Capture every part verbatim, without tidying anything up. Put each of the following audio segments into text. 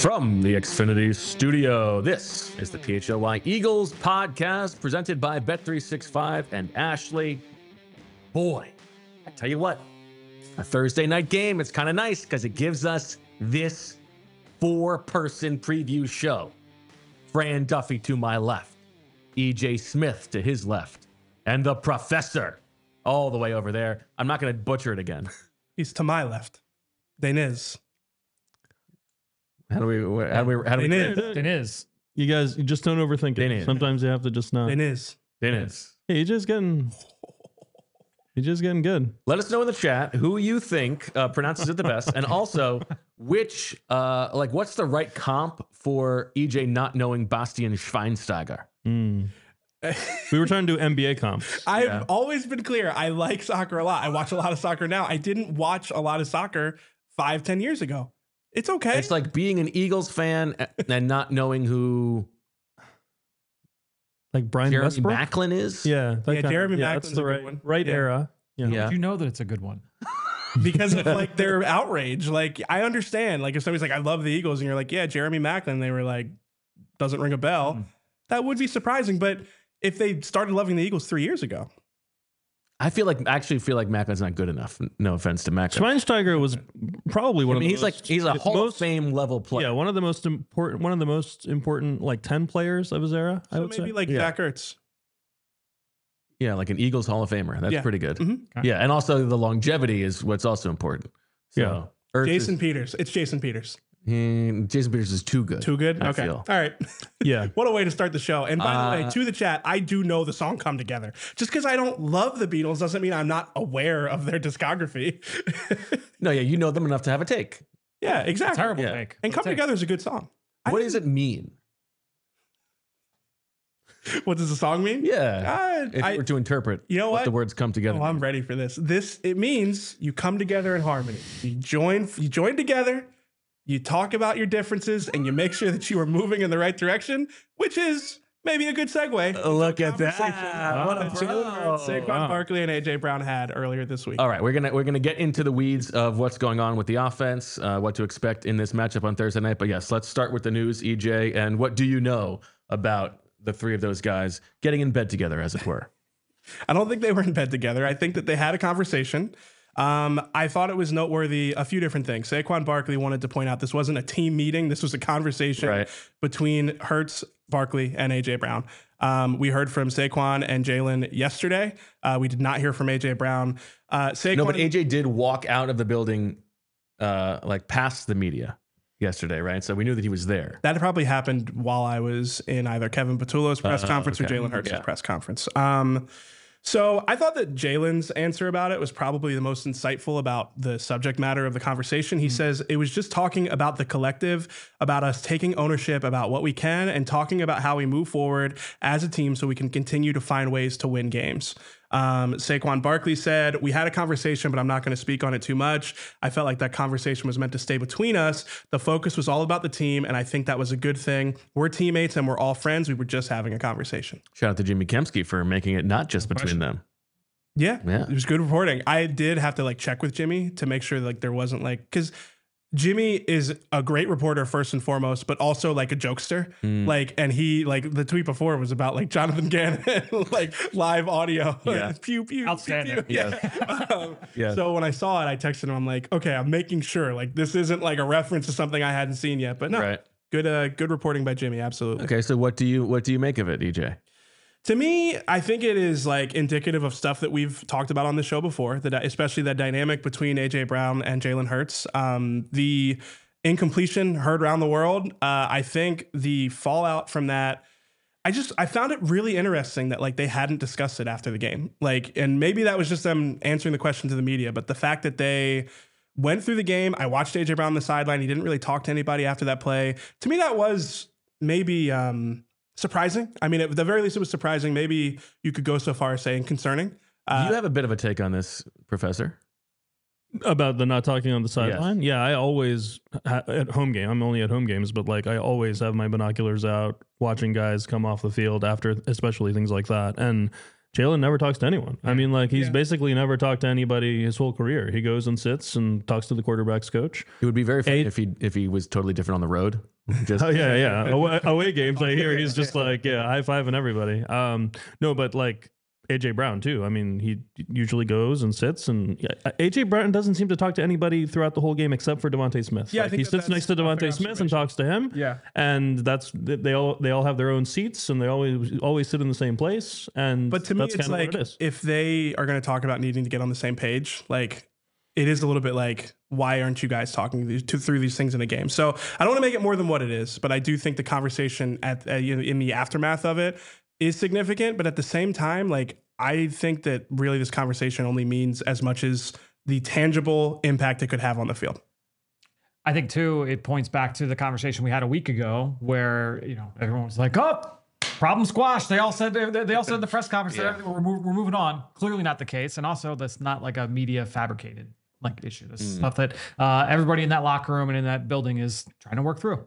From the Xfinity studio, this is the P H L Y Eagles podcast presented by Bet three sixty-five and Ashley. Boy, I tell you what, a Thursday night game, it's kind of nice because it gives us this four-person preview show. Fran Duffy to my left, E J Smith to his left, and the professor all the way over there. I'm not going to butcher it again. He's to my left. Deniz. How do we, how do we, how do we, Deniz. Deniz. You guys, you just don't overthink it. Deniz. Sometimes you have to just not. Deniz. Dennis? Hey, you're just getting, you're just getting good. Let us know in the chat who you think uh, pronounces it the best, and also which, uh, like, what's the right comp for E J not knowing Bastian Schweinsteiger? Mm. We were trying to do N B A comps. I've Yeah. always been clear. I like soccer a lot. I watch a lot of soccer now. I didn't watch a lot of soccer five, ten years ago. It's okay. It's like being an Eagles fan and not knowing who Like Brian Jeremy Westbrook. Macklin is. Yeah, that Yeah, kind- Jeremy yeah, Maclin's that's the a good right, one. right Yeah. era. Yeah. Yeah. You know that it's a good one. because of like their outrage. Like, I understand. Like, if somebody's like, I love the Eagles, and you're like, yeah, Jeremy Macklin, they were like, doesn't ring a bell. Mm. That would be surprising. But if they started loving the Eagles three years ago, I feel like I actually feel like Macklin's not good enough. No offense to Macklin. Schweinsteiger was probably one I mean, of the he's most, like he's a Hall most, of Fame level player. Yeah, one of the most important, one of the most important like ten players of his era. I so would maybe say. like Yeah. Zach Ertz. Yeah, like an Eagles Hall of Famer. That's Yeah. pretty good. Mhm. Okay. Yeah, and also the longevity is what's also important. So, Yeah. Ertz Jason is- Peters. It's Jason Peters. Hmm, Jason Peters is too good. Too good? I Okay. feel. All right. Yeah. What a way to start the show. And by the way, Uh, to the chat, I do know the song Come Together. Just because I don't love the Beatles doesn't mean I'm not aware of their discography. No, yeah, you know them enough to have a take. yeah, exactly. Terrible Yeah. take. And Come Take. Together is a good song. I What think- does it mean? What does the song mean? Yeah, Uh, if I- we're to interpret you know what what? the words come together. Oh, I'm ready for this. This it means you come together in harmony. You join you join together, you talk about your differences, and you make sure that you are moving in the right direction, which is maybe a good segue. Oh, look at that. Conversation What a that Jalen bro. Hurts, Saquon Wow. Barkley and A J Brown had earlier this week. All right, we're gonna we're gonna get into the weeds of what's going on with the offense, uh, what to expect in this matchup on Thursday night. But yes, let's start with the news, E J. And what do you know about the three of those guys getting in bed together, as it were? I don't think they were in bed together. I think that they had a conversation. Um, I thought it was noteworthy a few different things. Saquon Barkley wanted to point out this wasn't a team meeting. This was a conversation Right. between Hurts, Barkley, and A J Brown. Um, we heard from Saquon and Jalen yesterday. Uh, we did not hear from A J Brown. Uh, Saquon, No, but A J did walk out of the building, uh, like past the media yesterday, right? So we knew that he was there. that probably happened while I was in either Kevin Patullo's press Uh, conference okay. or Jalen Hurts' Yeah. press conference. Um, so I thought that Jalen's answer about it was probably the most insightful about the subject matter of the conversation. He says it was just talking about the collective, about us taking ownership about what we can and talking about how we move forward as a team so we can continue to find ways to win games. Um, Saquon Barkley said, we had a conversation, but I'm not going to speak on it too much. I felt like that conversation was meant to stay between us. The focus was all about the team, and I think that was a good thing. We're teammates and we're all friends. We were just having a conversation. Shout out to Jimmy Kemsky for making it not just between them. Yeah, Yeah. it was good reporting. I did have to like check with Jimmy to make sure like there wasn't like, because Jimmy is a great reporter first and foremost, but also like a jokester. Mm. Like, and he like the tweet before was about like Jonathan Gannon, like live audio, Yeah. pew pew, Outstanding. pew, pew. Yeah. um, Yeah. So when I saw it, I texted him. I'm like, okay, I'm making sure like this isn't like a reference to something I hadn't seen yet. But no, Right. good, uh, good reporting by Jimmy. Absolutely. Okay, so what do you what do you make of it, E J? To me, I think it is like indicative of stuff that we've talked about on the show before, that especially that dynamic between A J Brown and Jalen Hurts. Um, the incompletion heard around the world. Uh, I think the fallout from that, I just I found it really interesting that like they hadn't discussed it after the game. Like, and maybe that was just them answering the question to the media, but the fact that they went through the game, I watched A J Brown on the sideline. He didn't really talk to anybody after that play. To me, that was maybe um, surprising. I mean, at the very least, it was surprising. Maybe you could go so far as saying concerning. Uh, you have a bit of a take on this, Professor. About the not talking on the sideline. Yeah, I always ha- at home game. I'm only at home games, but like I always have my binoculars out, watching guys come off the field after, especially things like that. And Jalen never talks to anyone. I mean, like he's Yeah. basically never talked to anybody his whole career. He goes and sits and talks to the quarterback's coach. It would be very funny Eight- if he if he was totally different on the road. Just Oh yeah, yeah. Away, away games, I hear he's just like, yeah, high fiving everybody. Um, no, but like A J Brown too. I mean, he usually goes and sits, and yeah, A J Brown doesn't seem to talk to anybody throughout the whole game except for Devontae Smith. Yeah, I Like, think he that sits that's next to a fair Devontae Smith and observation. talks to him. Yeah. and that's they all they all have their own seats, and they always always sit in the same place. And But to me, that's it's kind of like what it is. if they are going to talk about needing to get on the same page, like it is a little bit like, why aren't you guys talking these, to, through these things in a game? So I don't want to make it more than what it is, but I do think the conversation at uh, you know, in the aftermath of it is significant. But at the same time, like I think that really this conversation only means as much as the tangible impact it could have on the field. I think too, it points back to the conversation we had a week ago where, you know, everyone was like, oh, problem squashed. They all said, they, they all said in the press conference Yeah. that we're, mov- we're moving on. Clearly not the case. And also that's not like a media fabricated like issue. This is stuff that uh, everybody in that locker room and in that building is trying to work through.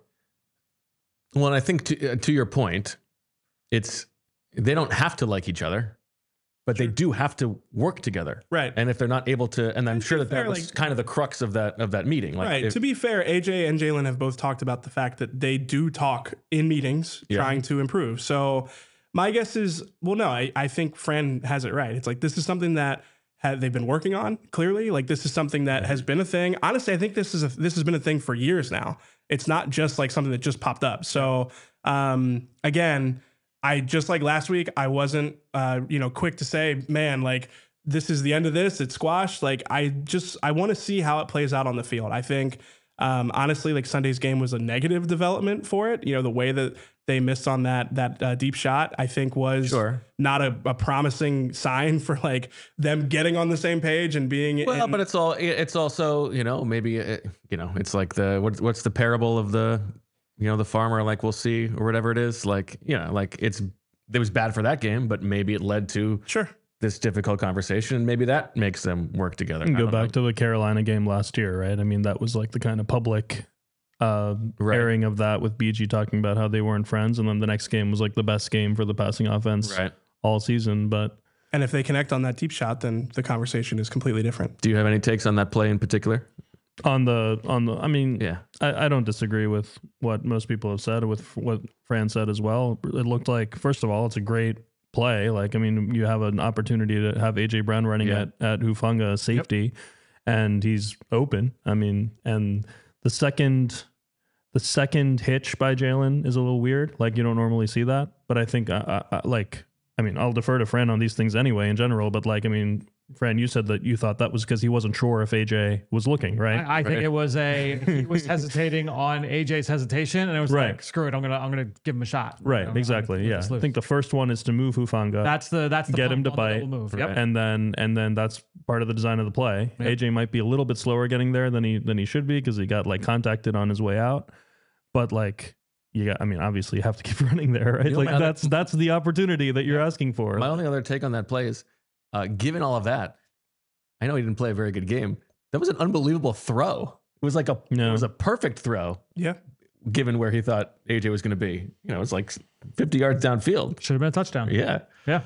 Well, and I think to, uh, to your point, it's they don't have to like each other, but they do have to work together. Right. And if they're not able to, and I'm And to sure be that that fair, was like- kind of the crux of that of that meeting. Like Right. if- To be fair, A J and Jalen have both talked about the fact that they do talk in meetings Yeah. trying to improve. So my guess is, well, no, I, I think Fran has it right. It's like this is something that ha- they've been working on. Clearly, like this is something that has been a thing. Honestly, I think this is a, this has been a thing for years now. It's not just like something that just popped up. So um, again, I just like last week, I wasn't uh, you know quick to say, man, like. This is the end of this. It's squashed. Like I just I want to see how it plays out on the field. I think um, honestly, like Sunday's game was a negative development for it. You know, the way that they missed on that that uh, deep shot, I think was Sure. not a, a promising sign for like them getting on the same page and being. well, in- but it's all it's also you know maybe it, you know it's like the what, what's the parable of the you know the farmer like we'll see or whatever it is like you know like it's it was bad for that game, but maybe it led to sure. this difficult conversation, and maybe that makes them work together. And I go don't back know. to the Carolina game last year, right? I mean, that was like the kind of public uh, Right. airing of that with B G talking about how they weren't friends, and then the next game was like the best game for the passing offense Right. all season. But And if they connect on that deep shot, then the conversation is completely different. Do you have any takes on that play in particular? on the on the, I mean, Yeah. I, I don't disagree with what most people have said, with what Fran said as well. It looked like, first of all, it's a great play. Like, I mean, you have an opportunity to have A J Brown running Yeah. at, at Hufanga as safety, and he's open. I mean, and the second, the second hitch by Jalen is a little weird. Like, you don't normally see that, but I think, I, I, I- like, I mean, I'll defer to Fran on these things anyway in general, but like, I mean, Fran, you said that you thought that was because he wasn't sure if A J was looking, right? I, I think Right. it was a he was hesitating on A J's hesitation, and it was Right. like, screw it, I'm gonna I'm gonna give him a shot. You Right, know, I'm exactly. gonna Yeah, let this I loose. think the first one is to move Hufanga, that's the that's the get him pump to on the bite. double move. Right. Yep. and then and then that's part of the design of the play. Yep. A J might be a little bit slower getting there than he than he should be because he got like contacted on his way out. But like you got, I mean, obviously you have to keep running there, right? You know, like my other- that's that's the opportunity that you're asking for. My only other take on that play is, uh, given all of that, I know he didn't play a very good game. That was an unbelievable throw. It was like a No. it was a perfect throw, Yeah. given where he thought A J was going to be. You know, it's like fifty yards downfield. Should have been a touchdown. Yeah. Yeah.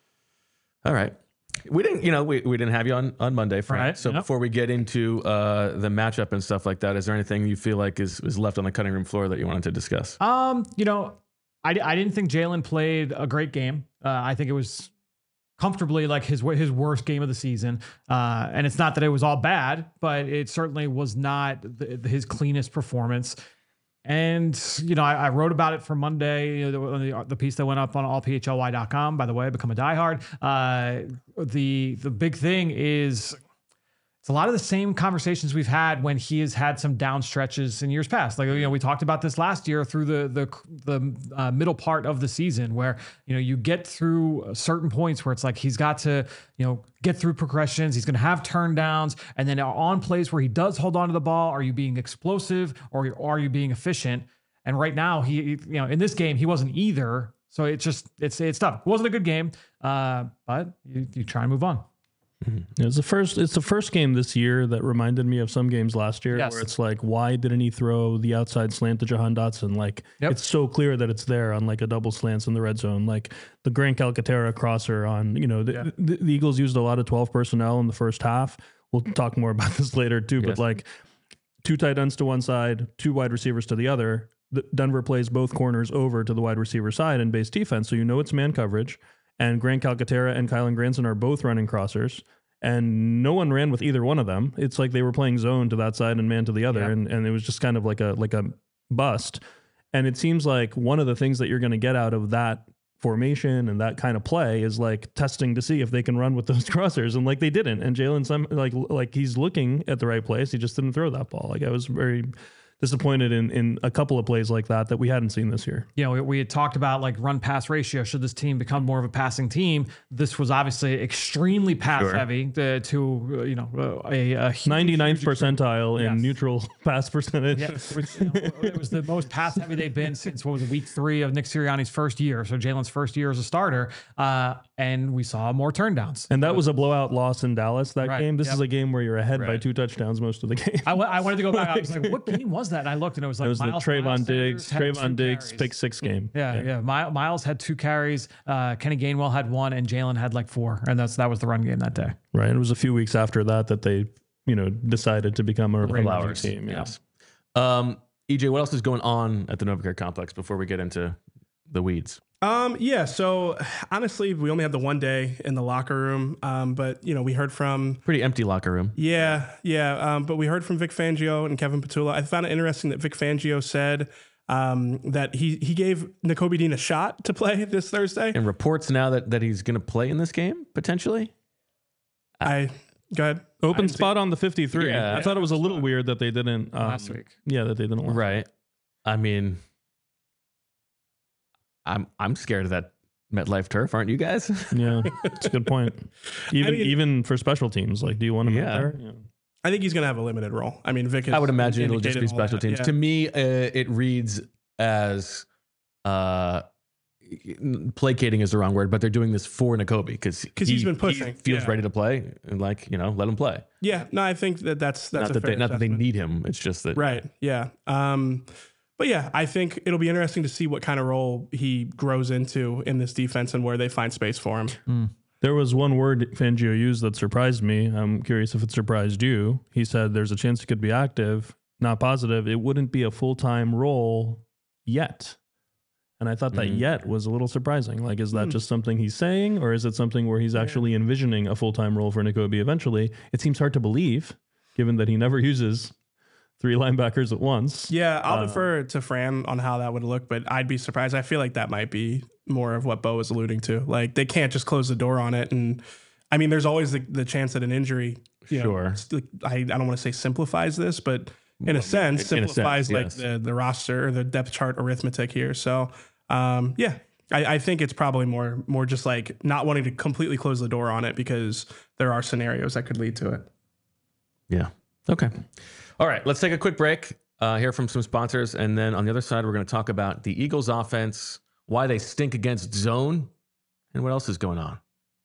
All right. We didn't, you know, we, we didn't have you on, on Monday, Frank. Right, So yep. before we get into uh, the matchup and stuff like that, is there anything you feel like is, is left on the cutting room floor that you wanted to discuss? Um, you know, I, I didn't think Jalen played a great game. Uh, I think it was comfortably like his his worst game of the season. Uh, and it's not that it was all bad, but it certainly was not the, his cleanest performance. And, you know, I, I wrote about it for Monday, you know, the, the, the piece that went up on all p h l y dot com, by the way, become a diehard. Uh, the, the big thing is it's a lot of the same conversations we've had when he has had some down stretches in years past. Like, you know, we talked about this last year through the the the uh, middle part of the season, where you know you get through certain points where it's like he's got to you know get through progressions. He's going to have turn downs, and then on plays where he does hold on to the ball, are you being explosive or are you being efficient? And right now, he you know in this game he wasn't either. So it's just it's it's tough. It wasn't a good game, uh, but you, you try and move on. Mm-hmm. It's the first. It's the first game this year that reminded me of some games last year, Yes. where it's like, why didn't he throw the outside slant to Jahan Dotson? Like, Yep. it's so clear that it's there on like a double slants in the red zone, like the Grant Calcaterra crosser on. You know, the, Yeah. the, the Eagles used a lot of twelve personnel in the first half. We'll talk more about this later too, Yes. but like two tight ends to one side, two wide receivers to the other. The, Denver plays both corners over to the wide receiver side in base defense, so you know it's man coverage. And Grant Calcaterra and Kylan Granson are both running crossers, and no one ran with either one of them. It's like they were playing zone to that side and man to the other, Yeah. and, and it was just kind of like a like a bust. And it seems like one of the things that you're going to get out of that formation and that kind of play is like testing to see if they can run with those crossers, and like they didn't. And Jalen, some like like he's looking at the right place, he just didn't throw that ball. Like I was very disappointed in in a couple of plays like that that we hadn't seen this year. You know, we, we had talked about like run pass ratio. Should this team become more of a passing team? This was obviously extremely pass Sure. heavy to, to uh, you know, a, a huge, ninety-ninth huge extreme- percentile in Yes. neutral pass percentage. Yeah, it was, you know, it was the most pass heavy they've been since what was it, week three of Nick Sirianni's first year. So Jalen's first year as a starter, uh, and we saw more turndowns. And that was a blowout loss in Dallas, that Right, game. This yep. is a game where you're ahead by Right. two touchdowns most of the game. I, w- I wanted to go back. I was like, what game was that? And I looked, and it was like It was the Miles, Trayvon Miles Diggs, Sanders had two Trayvon Diggs carries. pick six game. Yeah, yeah. My, Miles had two carries. Uh, Kenny Gainwell had one, and Jalen had like four, and that's that was the run game that day. Right. And it was a few weeks after that that they, you know, decided to become a, a running Flowers. team. Yeah. Yes. Um, E J, what else is going on at the Novacare complex before we get into the weeds? Um, yeah, so honestly, we only have the one day in the locker room. Um, but you know, we heard from Pretty empty locker room. yeah, yeah. Um, but we heard from Vic Fangio and Kevin Petula. I found it interesting that Vic Fangio said um, that he he gave Nakobe Dean a shot to play this Thursday. And reports now that, that he's going to play in this game, potentially. I go ahead. Open I didn't see- spot on the fifty-three. Yeah. I thought it was a little weird that they didn't um, Last week. Yeah, that they didn't. want- Right. I mean, I'm I'm scared of that MetLife turf, aren't you guys? Yeah, it's a good point. Even mean- even for special teams, like, do you want him Yeah. out there? Yeah. I think he's going to have a limited role. I mean, Vic. Has I would imagine it'll just be indicated all special that, teams. yeah. To me, uh, it reads as uh, placating is the wrong word, but they're doing this for Nakobe because 'Cause he's been pushing, feels yeah. ready to play, and like you know, let him play. Yeah, no, I think that that's that's not a that fair they not that they assessment. need him. It's just that Right. Yeah. Um, but yeah, I think it'll be interesting to see what kind of role he grows into in this defense and where they find space for him. There was one word Fangio used that surprised me. I'm curious if it surprised you. He said there's a chance he could be active, not positive. It wouldn't be a full-time role yet. And I thought that Mhm. yet was a little surprising. Like, is that Hmm. just something he's saying, or is it something where he's actually envisioning a full-time role for Nakobe eventually? It seems hard to believe, given that he never uses three linebackers at once. Yeah, I'll Uh, defer to Fran on how that would look, but I'd be surprised. I feel like that might be more of what Bo was alluding to. Like they can't just close the door on it. And I mean, there's always the, the chance that an injury, you know, Sure. st- I, I don't want to say simplifies this, but in a sense, in a sense, simplifies like yes. the, the roster or the depth chart arithmetic here. So um, yeah, I, I think it's probably more more just like not wanting to completely close the door on it because there are scenarios that could lead to it. Yeah. Okay. All right. Let's take a quick break, uh, hear from some sponsors. And then on the other side, we're going to talk about the Eagles offense, why they stink against zone, and what else is going on.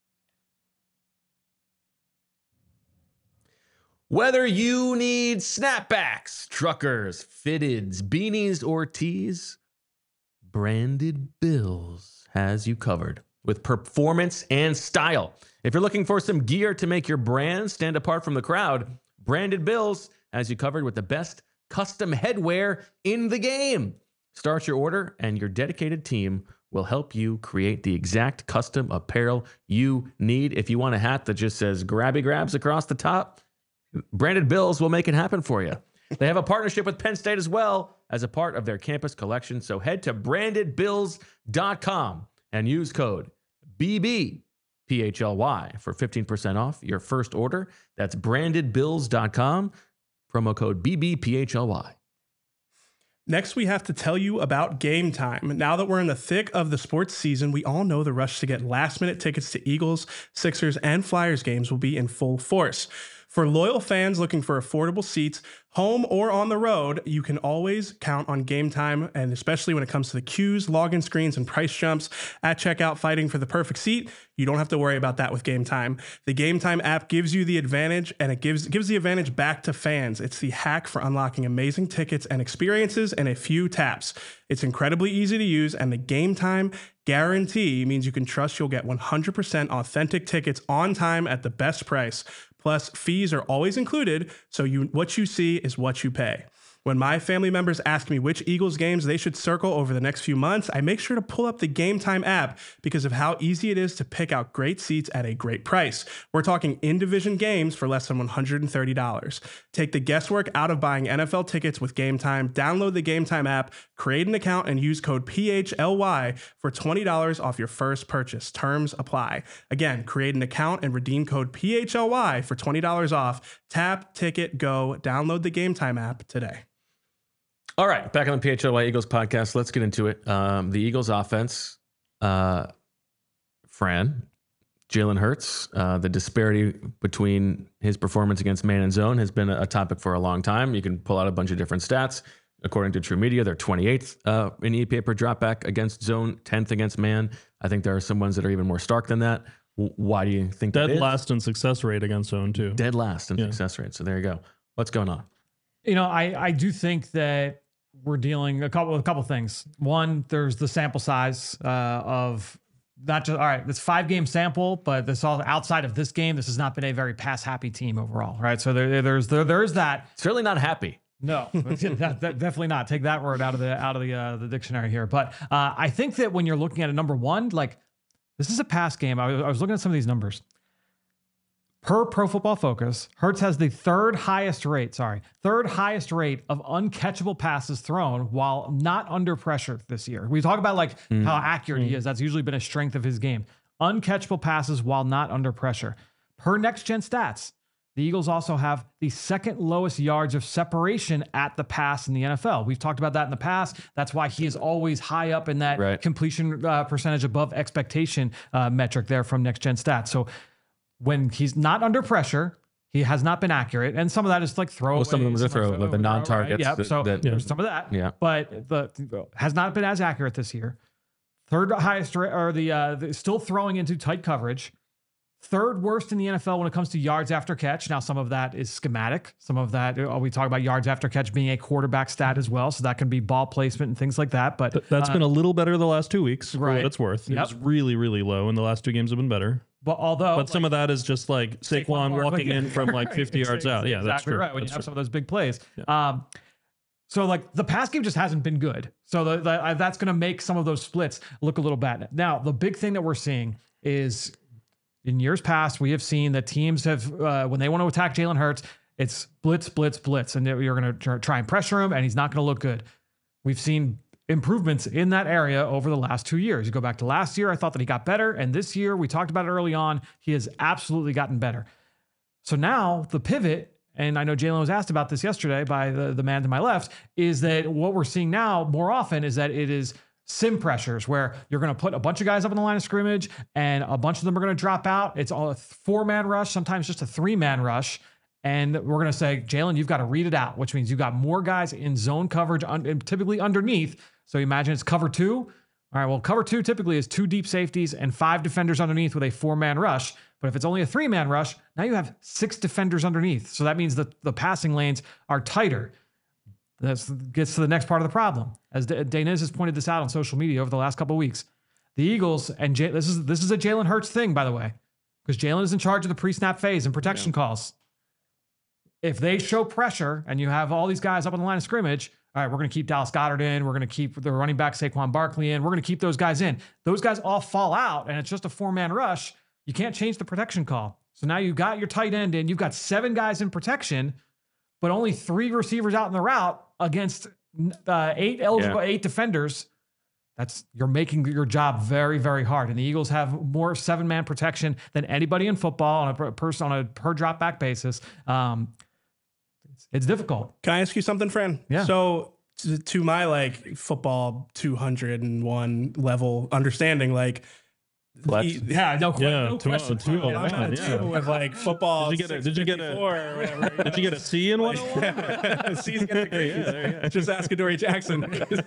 Whether you need snapbacks, truckers, fitteds, beanies, or tees, Branded Bills has you covered with performance and style. If you're looking for some gear to make your brand stand apart from the crowd, Branded Bills has you covered with the best custom headwear in the game. Start your order and your dedicated team will help you create the exact custom apparel you need. If you want a hat that just says grabby grabs across the top, Branded Bills will make it happen for you. They have a partnership with Penn State as well as a part of their campus collection. So head to branded bills dot com and use code B B P H L Y for fifteen percent off your first order. That's branded bills dot com, promo code B B P H L Y. Next, we have to tell you about Game Time. Now that we're in the thick of the sports season, we all know the rush to get last-minute tickets to Eagles, Sixers, and Flyers games will be in full force. For loyal fans looking for affordable seats, home or on the road, you can always count on Game Time, and especially when it comes to the queues, login screens, and price jumps at checkout fighting for the perfect seat, you don't have to worry about that with Game Time. The Game Time app gives you the advantage, and it gives gives the advantage back to fans. It's the hack for unlocking amazing tickets and experiences in a few taps. It's incredibly easy to use, and the Game Time guarantee means you can trust you'll get one hundred percent authentic tickets on time at the best price. Plus, fees are always included, so you what you see is what you pay. When my family members ask me which Eagles games they should circle over the next few months, I make sure to pull up the Game Time app because of how easy it is to pick out great seats at a great price. We're talking in-division games for less than one hundred thirty dollars. Take the guesswork out of buying N F L tickets with Game Time. Download the Game Time app, create an account, and use code P H L Y for twenty dollars off your first purchase. Terms apply. Again, create an account and redeem code P H L Y for twenty dollars off. Tap, ticket, go. Download the Game Time app today. All right, back on the P H L Y Eagles podcast. Let's get into it. Um, the Eagles offense, uh, Fran, Jalen Hurts, uh, the disparity between his performance against man and zone has been a topic for a long time. You can pull out a bunch of different stats. According to True Media, they're twenty-eighth uh, in E P A per dropback against zone, tenth against man. I think there are some ones that are even more stark than that. W- why do you think Dead that is? last in success rate against zone, too. Dead last in Yeah. success rate. So there you go. What's going on? You know, I, I do think that we're dealing a couple a couple things. One, there's the sample size uh, of not just all right. It's five game sample, but this all outside of this game. This has not been a very pass happy team overall, right? So there, there's there, there's that. Certainly not happy. No, that, that, definitely not. Take that word out of the out of the uh, the dictionary here. But uh, I think that when you're looking at a number one, like this is a pass game. I was, I was looking at some of these numbers. Per Pro Football Focus, Hurts has the third highest rate, sorry, third highest rate of uncatchable passes thrown while not under pressure this year. We talk about like mm. how accurate mm. he is. That's usually been a strength of his game. Uncatchable passes while not under pressure. Per Next Gen Stats, the Eagles also have the second lowest yards of separation at the pass in the N F L. We've talked about that in the past. That's why he is always high up in that right. completion uh, percentage above expectation uh, metric there from Next Gen Stats. So when he's not under pressure, he has not been accurate. And some of that is like throw. Well, some of them is a throw, like the non-targets. Yeah, that, so that, there's yeah. some of that. Yeah. But the has not been as accurate this year. Third highest, or the, uh, the still throwing into tight coverage. Third worst in the N F L when it comes to yards after catch. Now, some of that is schematic. Some of that, oh, we talk about yards after catch being a quarterback stat as well. So that can be ball placement and things like that. But Th- that's uh, been a little better the last two weeks, right? For what it's worth. Yep. It was really, really low, and the last two games have been better. But although, but some like, of that is just like Saquon, Saquon walking in from like fifty right. yards out. Yeah, exactly that's true. Right. When that's you have true. some of those big plays. Yeah. Um, so like the pass game just hasn't been good. So the, the, uh, that's going to make some of those splits look a little bad. Now, the big thing that we're seeing is in years past, we have seen that teams have, uh, when they want to attack Jalen Hurts, it's blitz, blitz, blitz. And you're going to try and pressure him and he's not going to look good. We've seen improvements in that area over the last two years. You go back to last year, I thought that he got better. And this year, we talked about it early on, he has absolutely gotten better. So now the pivot, and I know Jalen was asked about this yesterday by the, the man to my left, is that what we're seeing now more often is that it is sim pressures where you're going to put a bunch of guys up in the line of scrimmage and a bunch of them are going to drop out. It's all a four-man rush, sometimes just a three-man rush. And we're going to say, Jalen, you've got to read it out, which means you've got more guys in zone coverage, un- typically underneath. So imagine it's cover two. All right, well, cover two typically is two deep safeties and five defenders underneath with a four-man rush. But if it's only a three-man rush, now you have six defenders underneath. So that means that the passing lanes are tighter. That gets to the next part of the problem. As Daniz has pointed this out on social media over the last couple of weeks, the Eagles, and J- this is this is a Jalen Hurts thing, by the way, because Jalen is in charge of the pre-snap phase and protection yeah. calls. If they show pressure and you have all these guys up on the line of scrimmage, all right, we're going to keep Dallas Goedert in. We're going to keep the running back Saquon Barkley in. We're going to keep those guys in. Those guys all fall out, and it's just a four-man rush. You can't change the protection call. So now you've got your tight end in. You've got seven guys in protection, but only three receivers out in the route against uh, eight eligible, yeah. eight defenders. That's you're making your job very, very hard. And the Eagles have more seven-man protection than anybody in football on a per person on a per drop back basis. Um, it's, it's difficult. Can I ask you something, Fran? Yeah. So to, to my like football two hundred one level understanding, like Flex. He- Yeah, no, que- Yeah, no two- question. two oh Yeah, one, yeah. yeah. with like football. Did you get a- did you get a- six fifty-four or whatever? Did you get a C in one? C's get degrees. Just ask Adoree Jackson.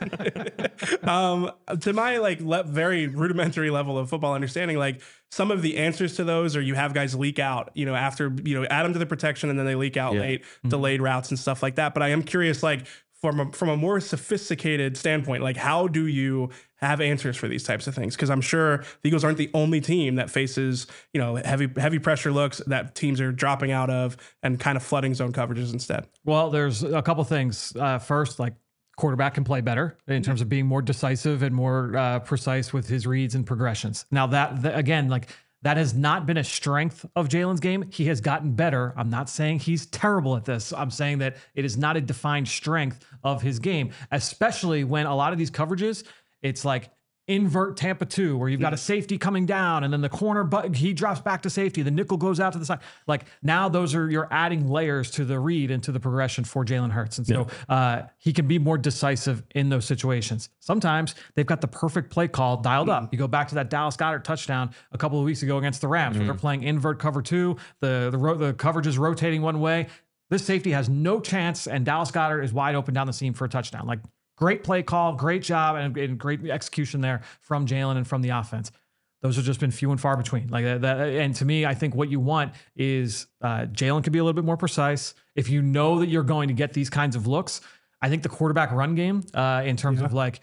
um, to my like le- very rudimentary level of football understanding, like some of the answers to those, or you have guys leak out, you know, after you know add them to the protection and then they leak out Yeah. late, delayed routes and stuff like that. But I am curious, like from a, from a more sophisticated standpoint, like how do you have answers for these types of things? Because I'm sure the Eagles aren't the only team that faces, you know, heavy heavy pressure looks that teams are dropping out of and kind of flooding zone coverages instead. Well, there's a couple things. Uh, first, like quarterback can play better in terms of being more decisive and more uh, precise with his reads and progressions. Now that, that again, like that has not been a strength of Jalen's game. He has gotten better. I'm not saying he's terrible at this. I'm saying that it is not a defined strength of his game, especially when a lot of these coverages, it's like invert Tampa two, where you've got a safety coming down and then the corner, but he drops back to safety. The nickel goes out to the side. Like now those are, you're adding layers to the read and to the progression for Jalen Hurts. And so uh, he can be more decisive in those situations. Sometimes they've got the perfect play call dialed up. You go back to that Dallas Goedert touchdown a couple of weeks ago against the Rams, where they're playing invert cover two. The, the, ro- the coverage is rotating one way. This safety has no chance, and Dallas Goedert is wide open down the seam for a touchdown. Like, great play call, great job, and, and great execution there from Jalen and from the offense. Those have just been few and far between. Like that, that and to me, I think what you want is uh, Jalen can be a little bit more precise. If you know that you're going to get these kinds of looks, I think the quarterback run game, uh, in terms Yeah. of like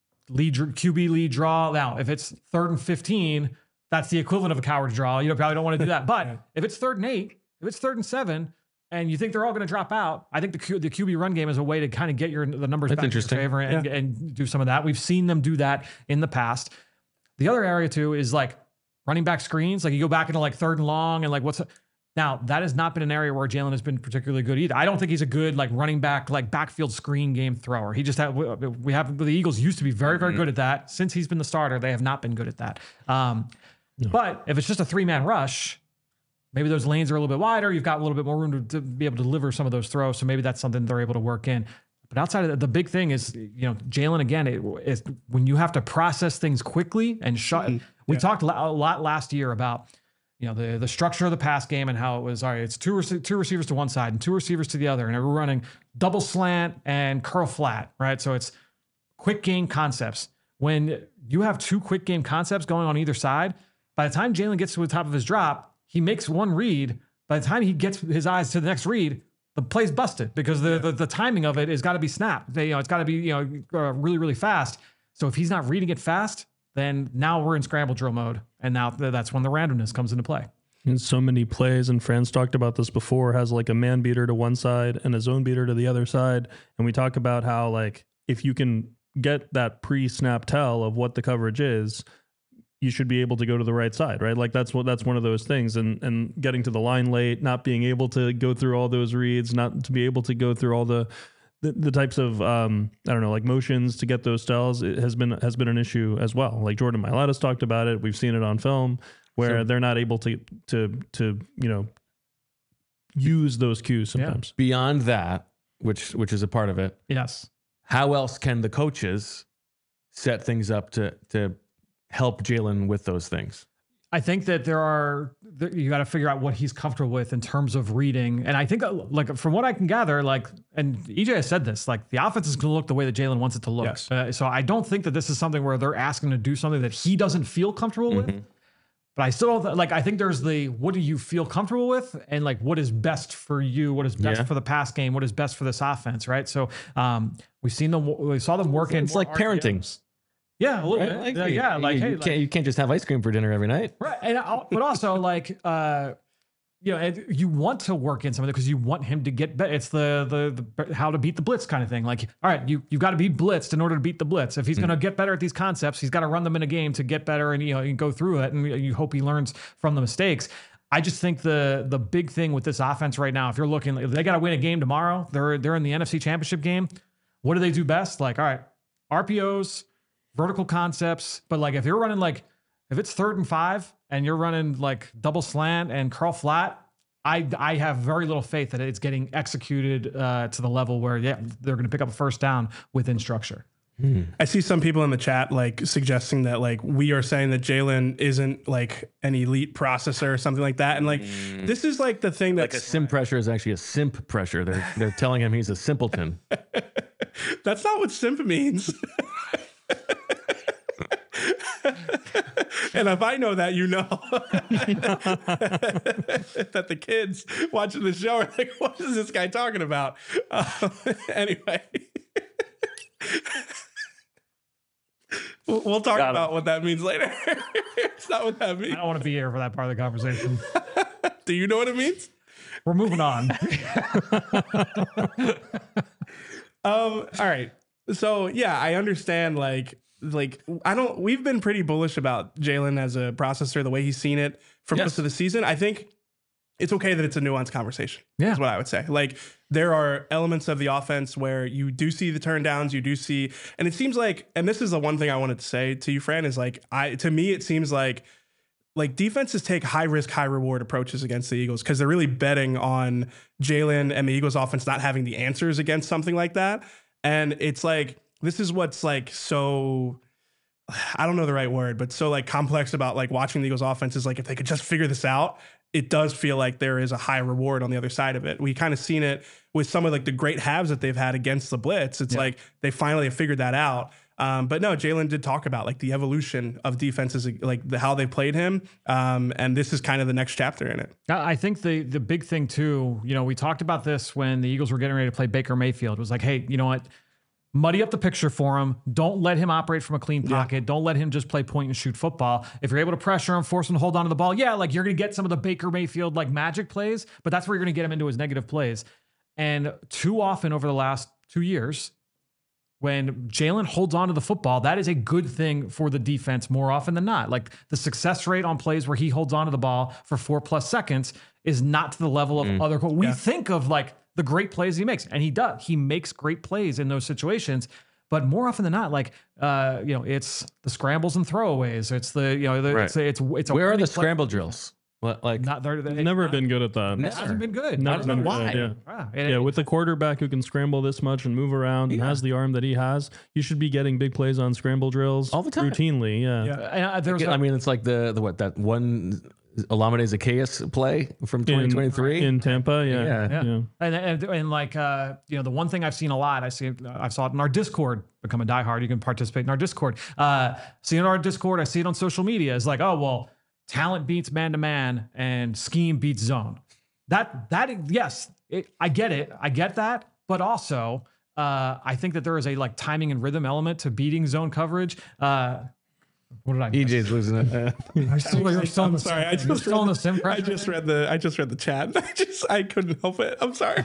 lead Q B lead draw. Now, if it's third and fifteen, that's the equivalent of a coward draw. You know, probably don't want to do that. But if it's third and eight, if it's third and seven, and you think they're all going to drop out, I think the Q, the Q B run game is a way to kind of get your the numbers That's back in your interesting. favor and, and do some of that. We've seen them do that in the past. The other area too is like running back screens. Like you go back into like third and long and like what's now that has not been an area where Jalen has been particularly good either. I don't think he's a good like running back like backfield screen game thrower. He just had we have the Eagles used to be very very good at that. Since he's been the starter, they have not been good at that. Um, No. But if it's just a three man rush, maybe those lanes are a little bit wider. You've got a little bit more room to, to be able to deliver some of those throws. So maybe that's something they're able to work in. But outside of that, the big thing is, you know, Jalen, again, it, is when you have to process things quickly and shut. Mhm. We Yeah. talked a lot last year about, you know, the, the structure of the pass game and how it was, all right, it's two, rec- two receivers to one side and two receivers to the other. And we're running double slant and curl flat, right? So it's quick game concepts. When you have two quick game concepts going on either side, by the time Jalen gets to the top of his drop, he makes one read. By the time he gets his eyes to the next read, the play's busted because the, the, the timing of it has got to be snapped. They, you know, it's got to be, you know, uh, really, really fast. So if he's not reading it fast, then now we're in scramble drill mode. And now th- that's when the randomness comes into play. And so many plays, and Franz talked about this before, has like a man beater to one side and a zone beater to the other side. And we talk about how like if you can get that pre-snap tell of what the coverage is, you should be able to go to the right side, right? Like that's what that's one of those things. And and getting to the line late, not being able to go through all those reads, not to be able to go through all the the, the types of um, I don't know, like motions to get those tells, it has been has been an issue as well. Like Jordan Mailata's talked about it. We've seen it on film where So- they're not able to to to you know use those cues sometimes. Beyond that, which which is a part of it, Yes. how else can the coaches set things up to to help Jalen with those things? I think that there are, that you got to figure out what he's comfortable with in terms of reading. And I think, uh, like, from what I can gather, like, and E J has said this, like, the offense is going to look the way that Jalen wants it to look. Yes. Uh, so I don't think that this is something where they're asking to do something that he doesn't feel comfortable with. Mhm. But I still don't, th- like, I think there's the, what do you feel comfortable with? And, like, what is best for you? What is best Yeah. for the pass game? What is best for this offense, right? So um, we've seen them, we saw them working. It's like parenting. Yeah, a little Right? bit. Like, yeah, yeah, you, like, you hey, can't like, you can't just have ice cream for dinner every night. right. And I'll, but also like, uh, you know, and you want to work in some of it because you want him to get better. It's the, the the how to beat the blitz kind of thing. Like, all right, you you got to be blitzed in order to beat the blitz. If he's going to get better at these concepts, he's got to run them in a game to get better, and you know, you go through it, and you hope he learns from the mistakes. I just think the the big thing with this offense right now, if you're looking, if they got to win a game tomorrow, they're they're in the N F C Championship game. What do they do best? Like, all right, R P Os, vertical concepts, but like if you're running like if it's third and five and you're running like double slant and curl flat, I I have very little faith that it's getting executed uh, to the level where yeah they're going to pick up a first down within structure. Mm. I see some people in the chat like suggesting that like we are saying that Jalen isn't like an elite processor or something like that. And like, mm. this is like the thing that's like a sim pressure is actually a simp pressure. They're, they're telling him he's a simpleton. That's not what simp means. And if I know that, you know that the kids watching the show are like, what is this guy talking about? Uh, anyway, we'll, we'll talk Got about it. what that means later. It's not what that means. I don't want to be here for that part of the conversation. Do you know what it means? We're moving on. um, all right. So yeah, I understand like, Like I don't. We've been pretty bullish about Jalen as a processor, the way he's seen it for yes. most of the season. I think it's okay that it's a nuanced conversation. Yeah, is what I would say. Like there are elements of the offense where you do see the turn downs, you do see, and it seems like, and this is the one thing I wanted to say to you, Fran, is like I to me it seems like like defenses take high risk, high reward approaches against the Eagles because they're really betting on Jalen and the Eagles offense not having the answers against something like that, and it's like. This is what's like so, I don't know the right word, but so like complex about like watching the Eagles offense is like if they could just figure this out, it does feel like there is a high reward on the other side of it. We kind of seen it with some of like the great halves that they've had against the blitz. It's yeah. like they finally have figured that out. Um, but no, Jalen did talk about like the evolution of defenses, like the, how they played him. Um, and this is kind of the next chapter in it. I think the the big thing too, you know, we talked about this when the Eagles were getting ready to play Baker Mayfield. It was like, hey, you know what? Muddy up the picture for him. Don't let him operate from a clean pocket. Yeah. Don't let him just play point and shoot football. If you're able to pressure him, force him to hold on to the ball, yeah, like you're going to get some of the Baker Mayfield like magic plays, but that's where you're going to get him into his negative plays. And too often over the last two years, when Jalen holds on to the football, that is a good thing for the defense more often than not. Like the success rate on plays where he holds on to the ball for four plus seconds is not to the level of mm. other. We yeah. think of like the great plays he makes, and he does. He makes great plays in those situations, but more often than not, like uh, you know, it's the scrambles and throwaways. It's the you know, the, right. it's it's it's. A Where are the play. scramble drills? What, like not there. Never not, been good at that. It hasn't been good. Not been why. Good, yeah, yeah. yeah with a quarterback who can scramble this much and move around yeah. and has the arm that he has, you should be getting big plays on scramble drills all the time, routinely. Yeah. yeah. And, uh, there's I mean, it's like the the what that one. Olamide Zaccheaus play from twenty twenty-three in, in Tampa, yeah, yeah, yeah. yeah. And, and and like uh, you know, the one thing I've seen a lot, I see, I saw it in our Discord. Become a diehard, you can participate in our Discord. Uh, see it in our Discord, I see it on social media. It's like, oh well, talent beats man to man, and scheme beats zone. That that yes, it, I get it, I get that, but also uh, I think that there is a like timing and rhythm element to beating zone coverage. Uh, What did I? E J's losing it. Uh, you're still, you're still I'm the, sorry. I just, read the, sim I just read the. I just read the chat. I just. I couldn't help it. I'm sorry.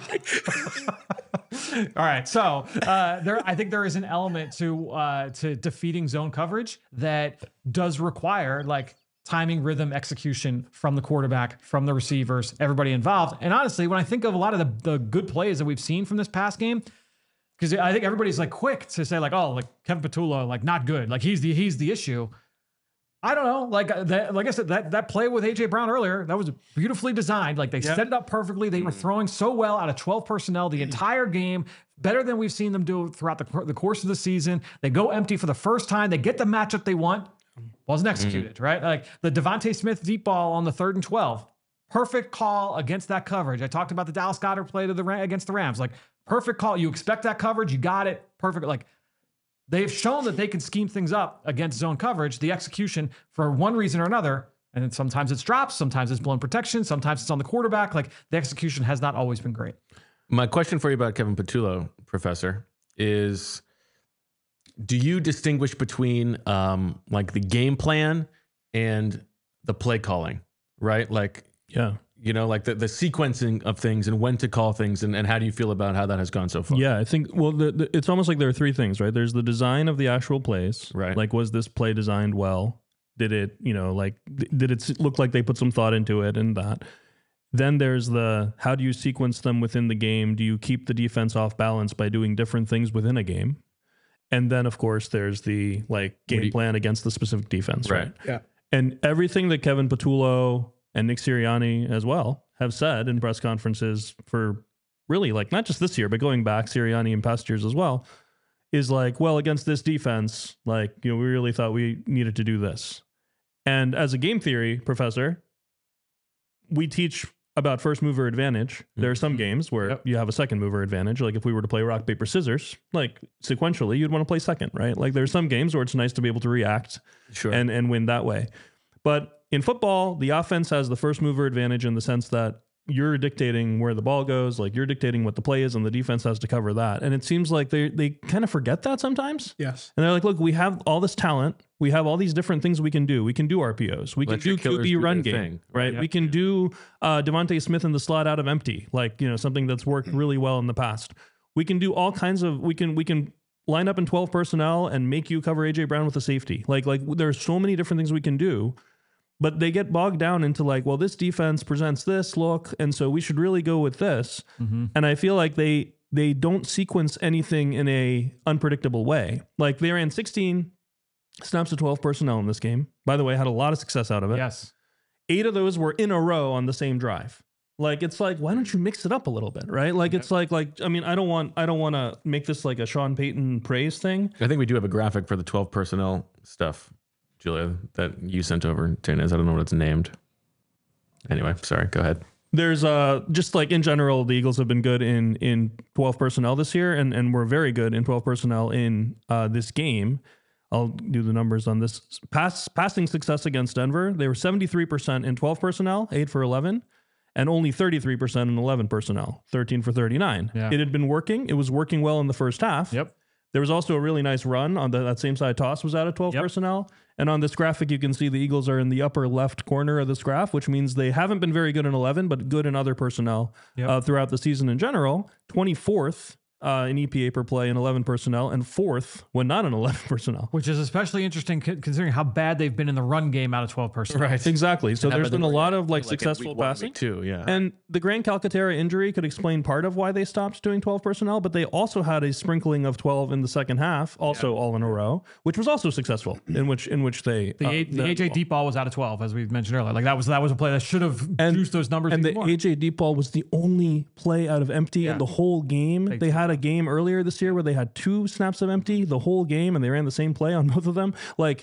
All right. So uh, there, I think there is an element to uh, to defeating zone coverage that does require like timing, rhythm, execution from the quarterback, from the receivers, everybody involved. And honestly, when I think of a lot of the, the good plays that we've seen from this past game. Because I think everybody's like quick to say like, oh, like Kevin Patullo, like not good, like he's the he's the issue. I don't know, like that, like I said, that that play with A J Brown earlier, that was beautifully designed. Like they yep. set it up perfectly. They were throwing so well out of twelve personnel the entire game, better than we've seen them do throughout the the course of the season. They go empty for the first time. They get the matchup they want. Wasn't executed, mm-hmm. right? Like the Devontae Smith deep ball on the third and twelve. Perfect call against that coverage. I talked about the Dallas Goedert play to the against the Rams. Like perfect call. You expect that coverage. You got it. Perfect. Like they've shown that they can scheme things up against zone coverage. The execution for one reason or another. And then sometimes it's drops. Sometimes it's blown protection. Sometimes it's on the quarterback. Like the execution has not always been great. My question for you about Kevin Patullo, Professor, is do you distinguish between um, like the game plan and the play calling, right? Like, yeah. You know, like the, the sequencing of things and when to call things and, and how do you feel about how that has gone so far? Yeah, I think, well, the, the, it's almost like there are three things, right? There's the design of the actual plays. Right. Like, was this play designed well? Did it, you know, like, th- did it look like they put some thought into it and that? Then there's the, how do you sequence them within the game? Do you keep the defense off balance by doing different things within a game? And then, of course, there's the, like, game you, plan against the specific defense, right? right? Yeah. And everything that Kevin Patullo and Nick Sirianni as well have said in press conferences for really like not just this year, but going back Sirianni and past years as well, is like, well, against this defense, like, you know, we really thought we needed to do this. And as a game theory professor, we teach about first mover advantage. There are some games where Yep. you have a second mover advantage. Like if we were to play rock, paper, scissors, like sequentially, you'd want to play second, right? Like there's some games where it's nice to be able to react Sure. and, and win that way. But in football, the offense has the first mover advantage in the sense that you're dictating where the ball goes, like you're dictating what the play is, and the defense has to cover that. And it seems like they they kind of forget that sometimes. Yes. And they're like, look, we have all this talent. We have all these different things we can do. We can do R P Os. We Let can your do killers Q B do run their game, thing. right? Yep. We can do uh, Devontae Smith in the slot out of empty, like, you know, something that's worked really well in the past. We can do all kinds of, we can, we can line up in twelve personnel and make you cover A J Brown with a safety. Like, like there's so many different things we can do. But they get bogged down into like, well, this defense presents this look, and so we should really go with this. Mm-hmm. And I feel like they they don't sequence anything in a unpredictable way. Like they ran sixteen snaps of twelve personnel in this game. By the way, had a lot of success out of it. Yes. Eight of those were in a row on the same drive. Like it's like, why don't you mix it up a little bit, right? Like it's like like I mean, I don't want I don't want to make this like a Sean Payton praise thing. I think we do have a graphic for the twelve personnel stuff, Julia, that you sent over to Inez. I don't know what it's named. Anyway, sorry, go ahead. There's uh just like in general, the Eagles have been good in in twelve personnel this year, and and we're very good in twelve personnel in uh, this game. I'll do the numbers on this. Pass passing success against Denver, they were seventy-three percent in twelve personnel, eight for eleven, and only thirty-three percent in eleven personnel, thirteen for thirty-nine. Yeah. It had been working. It was working well in the first half. Yep. There was also a really nice run on the, that same side toss was out of twelve Yep. personnel. And on this graphic, you can see the Eagles are in the upper left corner of this graph, which means they haven't been very good in eleven, but good in other personnel Yep. uh, throughout the season in general. twenty-fourth uh, in E P A per play in eleven personnel, and fourth when not in eleven personnel. Which is especially interesting co- considering how bad they've been in the run game out of twelve personnel. Right. Exactly. So And how there's about been a they lot were, of like in successful week one, passing. week two, yeah. And the Grand Calcaterra injury could explain part of why they stopped doing twelve personnel, but they also had a sprinkling of twelve in the second half, also all in a row, which was also successful. In which in which they The, uh, A, the A J deep ball was out of twelve, as we mentioned earlier. Like that was that was a play that should have And- juiced those numbers and even the more. A J deep ball was the only play out of empty Yeah. in the whole game. They had a game earlier this year where they had two snaps of empty the whole game, and they ran the same play on both of them. Like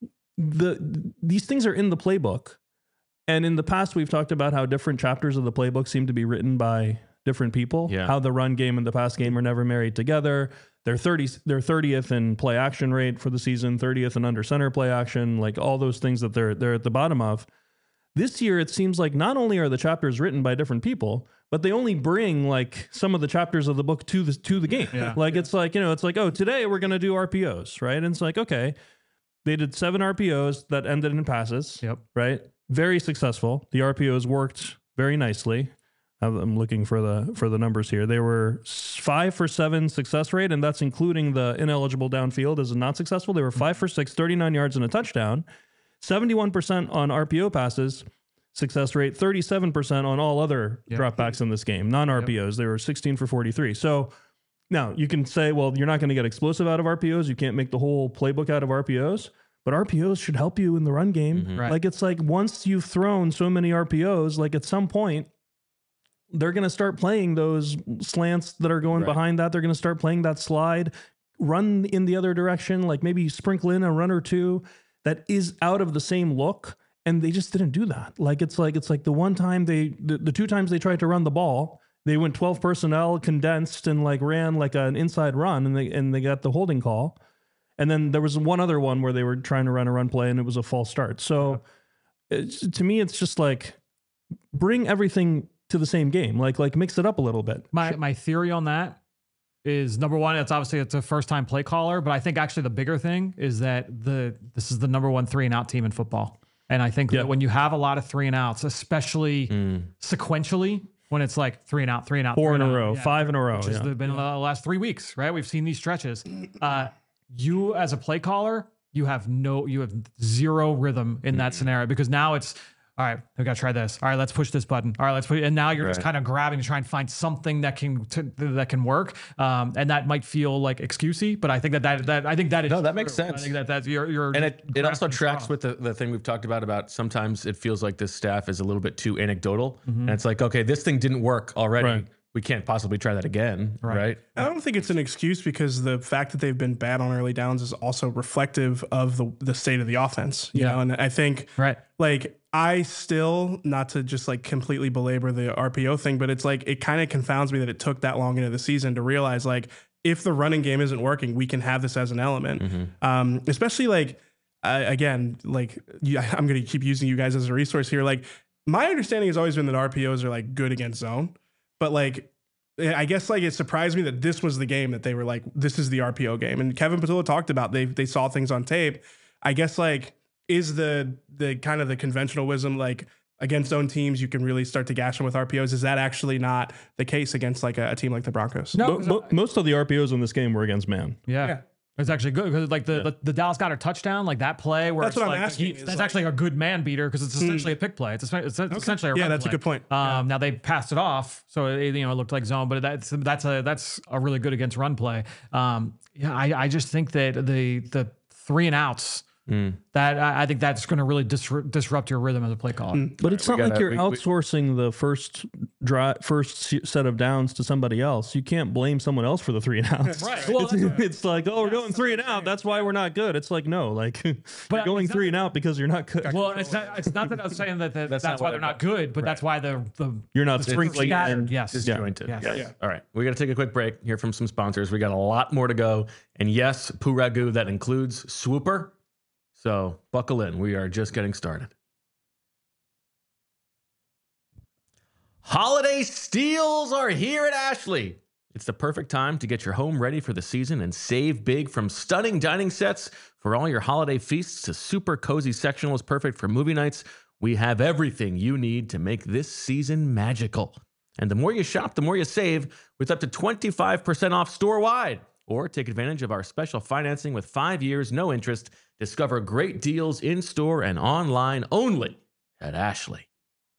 the these things are in the playbook. And in the past, we've talked about how different chapters of the playbook seem to be written by different people. Yeah. How the run game and the pass game are never married together. They're thirty, they're thirtieth in play action rate for the season, thirtieth in under center play action, like all those things that they're they're at the bottom of. This year, it seems like not only are the chapters written by different people, but they only bring like some of the chapters of the book to the to the game. Yeah. Like it's like, you know, it's like, oh, today we're gonna do R P Os, right? And it's like, okay, they did seven R P Os that ended in passes. Yep. Right. Very successful. The R P Os worked very nicely. I'm looking for the for the numbers here. They were five for seven success rate, and that's including the ineligible downfield as a not successful. They were five for six, thirty-nine yards and a touchdown, seventy-one percent on R P O passes success rate, thirty-seven percent on all other Yep. dropbacks in this game, non-R P Os. They were sixteen for forty-three. So now you can say, well, you're not going to get explosive out of R P Os. You can't make the whole playbook out of R P Os. But R P Os should help you in the run game. Mhm. Right. Like it's like once you've thrown so many R P Os, like at some point, they're going to start playing those slants that are going Right. behind that. They're going to start playing that slide, run in the other direction, like maybe sprinkle in a run or two that is out of the same look. And they just didn't do that. Like it's like it's like the one time they the, the two times they tried to run the ball, they went twelve personnel, condensed, and like ran like an inside run, and they and they got the holding call. And then there was one other one where they were trying to run a run play, and it was a false start. So it's, to me, it's just like bring everything to the same game, like like mix it up a little bit. My my theory on that is number one, it's obviously it's a first time play caller, but I think actually the bigger thing is that the this is the number one three and out team in football. And I think Yeah. that when you have a lot of three and outs, especially sequentially, when it's like three and out, three and out, Four three in and a out, row, yeah, five in a row. which has Yeah. been the last three weeks, right? We've seen these stretches. Uh, you as a play caller, you have no, you have zero rhythm in that scenario because now it's, all right, we got to try this. All right, let's push this button. All right, let's put, and now you're just Right. kind of grabbing to try and find something that can to, that can work. Um, and that might feel like excusey, but I think that that, that I think that is No, that makes true. I sense. think that that's you're, you're And it, it also grasping tracks straws. with the, the thing we've talked about, about sometimes it feels like this staff is a little bit too anecdotal. And it's like, okay, this thing didn't work already. Right. we can't possibly try that again, right? right? I don't think it's an excuse because the fact that they've been bad on early downs is also reflective of the the state of the offense. You Yeah. know, and I think Right. like I still, not to just like completely belabor the R P O thing, but it's like it kind of confounds me that it took that long into the season to realize like if the running game isn't working, we can have this as an element. Mm-hmm. Um, especially like uh, again, like you, I'm going to keep using you guys as a resource here. Like my understanding has always been that R P Os are like good against zone, but like I guess like it surprised me that this was the game that they were like, this is the R P O game. And Kevin Patullo talked about they they saw things on tape. I guess like is the the kind of the conventional wisdom like against zone teams you can really start to gash them with R P Os? Is that actually not the case against like a, a team like the Broncos? No, Mo- mo- most of the R P Os in this game were against man. Yeah. Yeah. It's actually good because like the, Yeah. the the Dallas Goedert touchdown, like that play where That's it's what I'm like, asking he- is, that's like- actually a good man beater because it's essentially a pick play. It's, a, it's essentially a Yeah, run that's a play. good point. Um, Now they passed it off, so it, you know it looked like zone, but that's that's a that's a really good against run play. Um, yeah, I, I just think that the the three and outs that I, I think that's going to really disrupt, disrupt your rhythm as a play caller. But it's we not like gotta- you're we- we- outsourcing the first dri first se- set of downs to somebody else. You can't blame someone else for the three and outs. Right. Well, It's, that's- it's like, oh, we're going three and out. That's why we're not good. It's like, no, like you're going it's not- three and out because you're not good. Well, it's not it's not that I was saying that, that that's, not why what they're I not good, but that's why the the You're not the sprinkling scattered. and Yes. Disjointed. Yes. Yes. Yeah. All right. We got to take a quick break, hear from some sponsors. We got a lot more to go. And yes, Poo Ragu, that includes Swooper. So buckle in. We are just getting started. Holiday steals are here at Ashley. It's the perfect time to get your home ready for the season and save big, from stunning dining sets for all your holiday feasts to super cozy sectionals perfect for movie nights. We have everything you need to make this season magical. And the more you shop, the more you save, with up to twenty-five percent off store-wide. Or take advantage of our special financing with five years, no interest. Discover great deals in-store and online only at Ashley.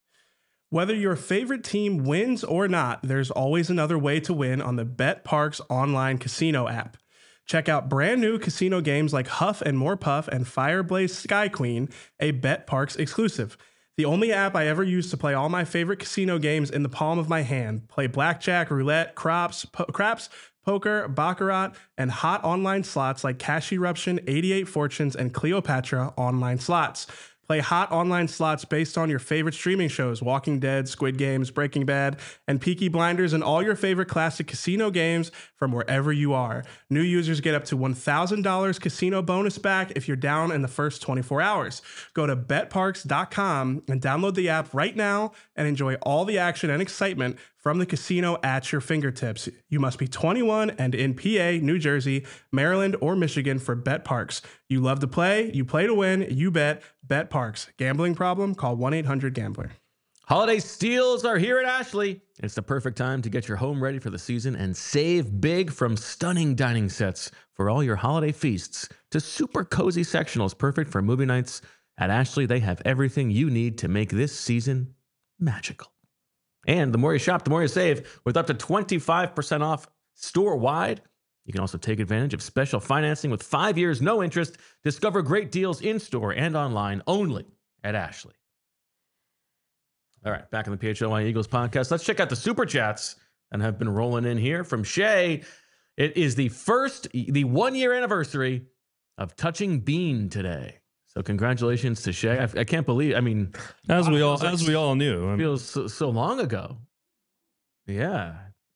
Whether your favorite team wins or not, there's always another way to win on the BetParx online casino app. Check out brand new casino games like Huff and More Puff and Fireblaze Sky Queen, a BetParx exclusive. The only app I ever used to play all my favorite casino games in the palm of my hand. Play blackjack, roulette, craps, po- craps, poker, baccarat, and hot online slots like Cash Eruption, eighty-eight Fortunes, and Cleopatra online slots. Play hot online slots based on your favorite streaming shows: Walking Dead, Squid Games, Breaking Bad, and Peaky Blinders, and all your favorite classic casino games from wherever you are. New users get up to one thousand dollars casino bonus back if you're down in the first twenty-four hours. Go to bet parx dot com and download the app right now and enjoy all the action and excitement from the casino at your fingertips. You must be twenty-one and in P A, New Jersey, Maryland, or Michigan for BetParx. You love to play, you play to win, you bet. BetParx. Gambling problem? Call one eight hundred gambler. Holiday steals are here at Ashley. It's the perfect time to get your home ready for the season and save big, from stunning dining sets for all your holiday feasts to super cozy sectionals perfect for movie nights. At Ashley, they have everything you need to make this season magical. And the more you shop, the more you save, with up to twenty-five percent off store-wide. You can also take advantage of special financing with five years, no interest. Discover great deals in-store and online only at Ashley. All right, back in the P H L Y Eagles podcast. Let's check out the Super Chats that have been rolling in here from Shay. It is the first, the one-year anniversary of Touching Bean today. So congratulations to Shay. I, I can't believe, I mean, As we all feels like- as we all knew. I it mean, feels so, so long ago. Yeah.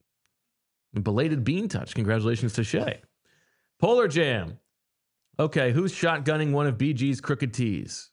Belated Bean touch. Congratulations to Shay. Polar Jam. Okay, who's shotgunning one of B G's crooked tees?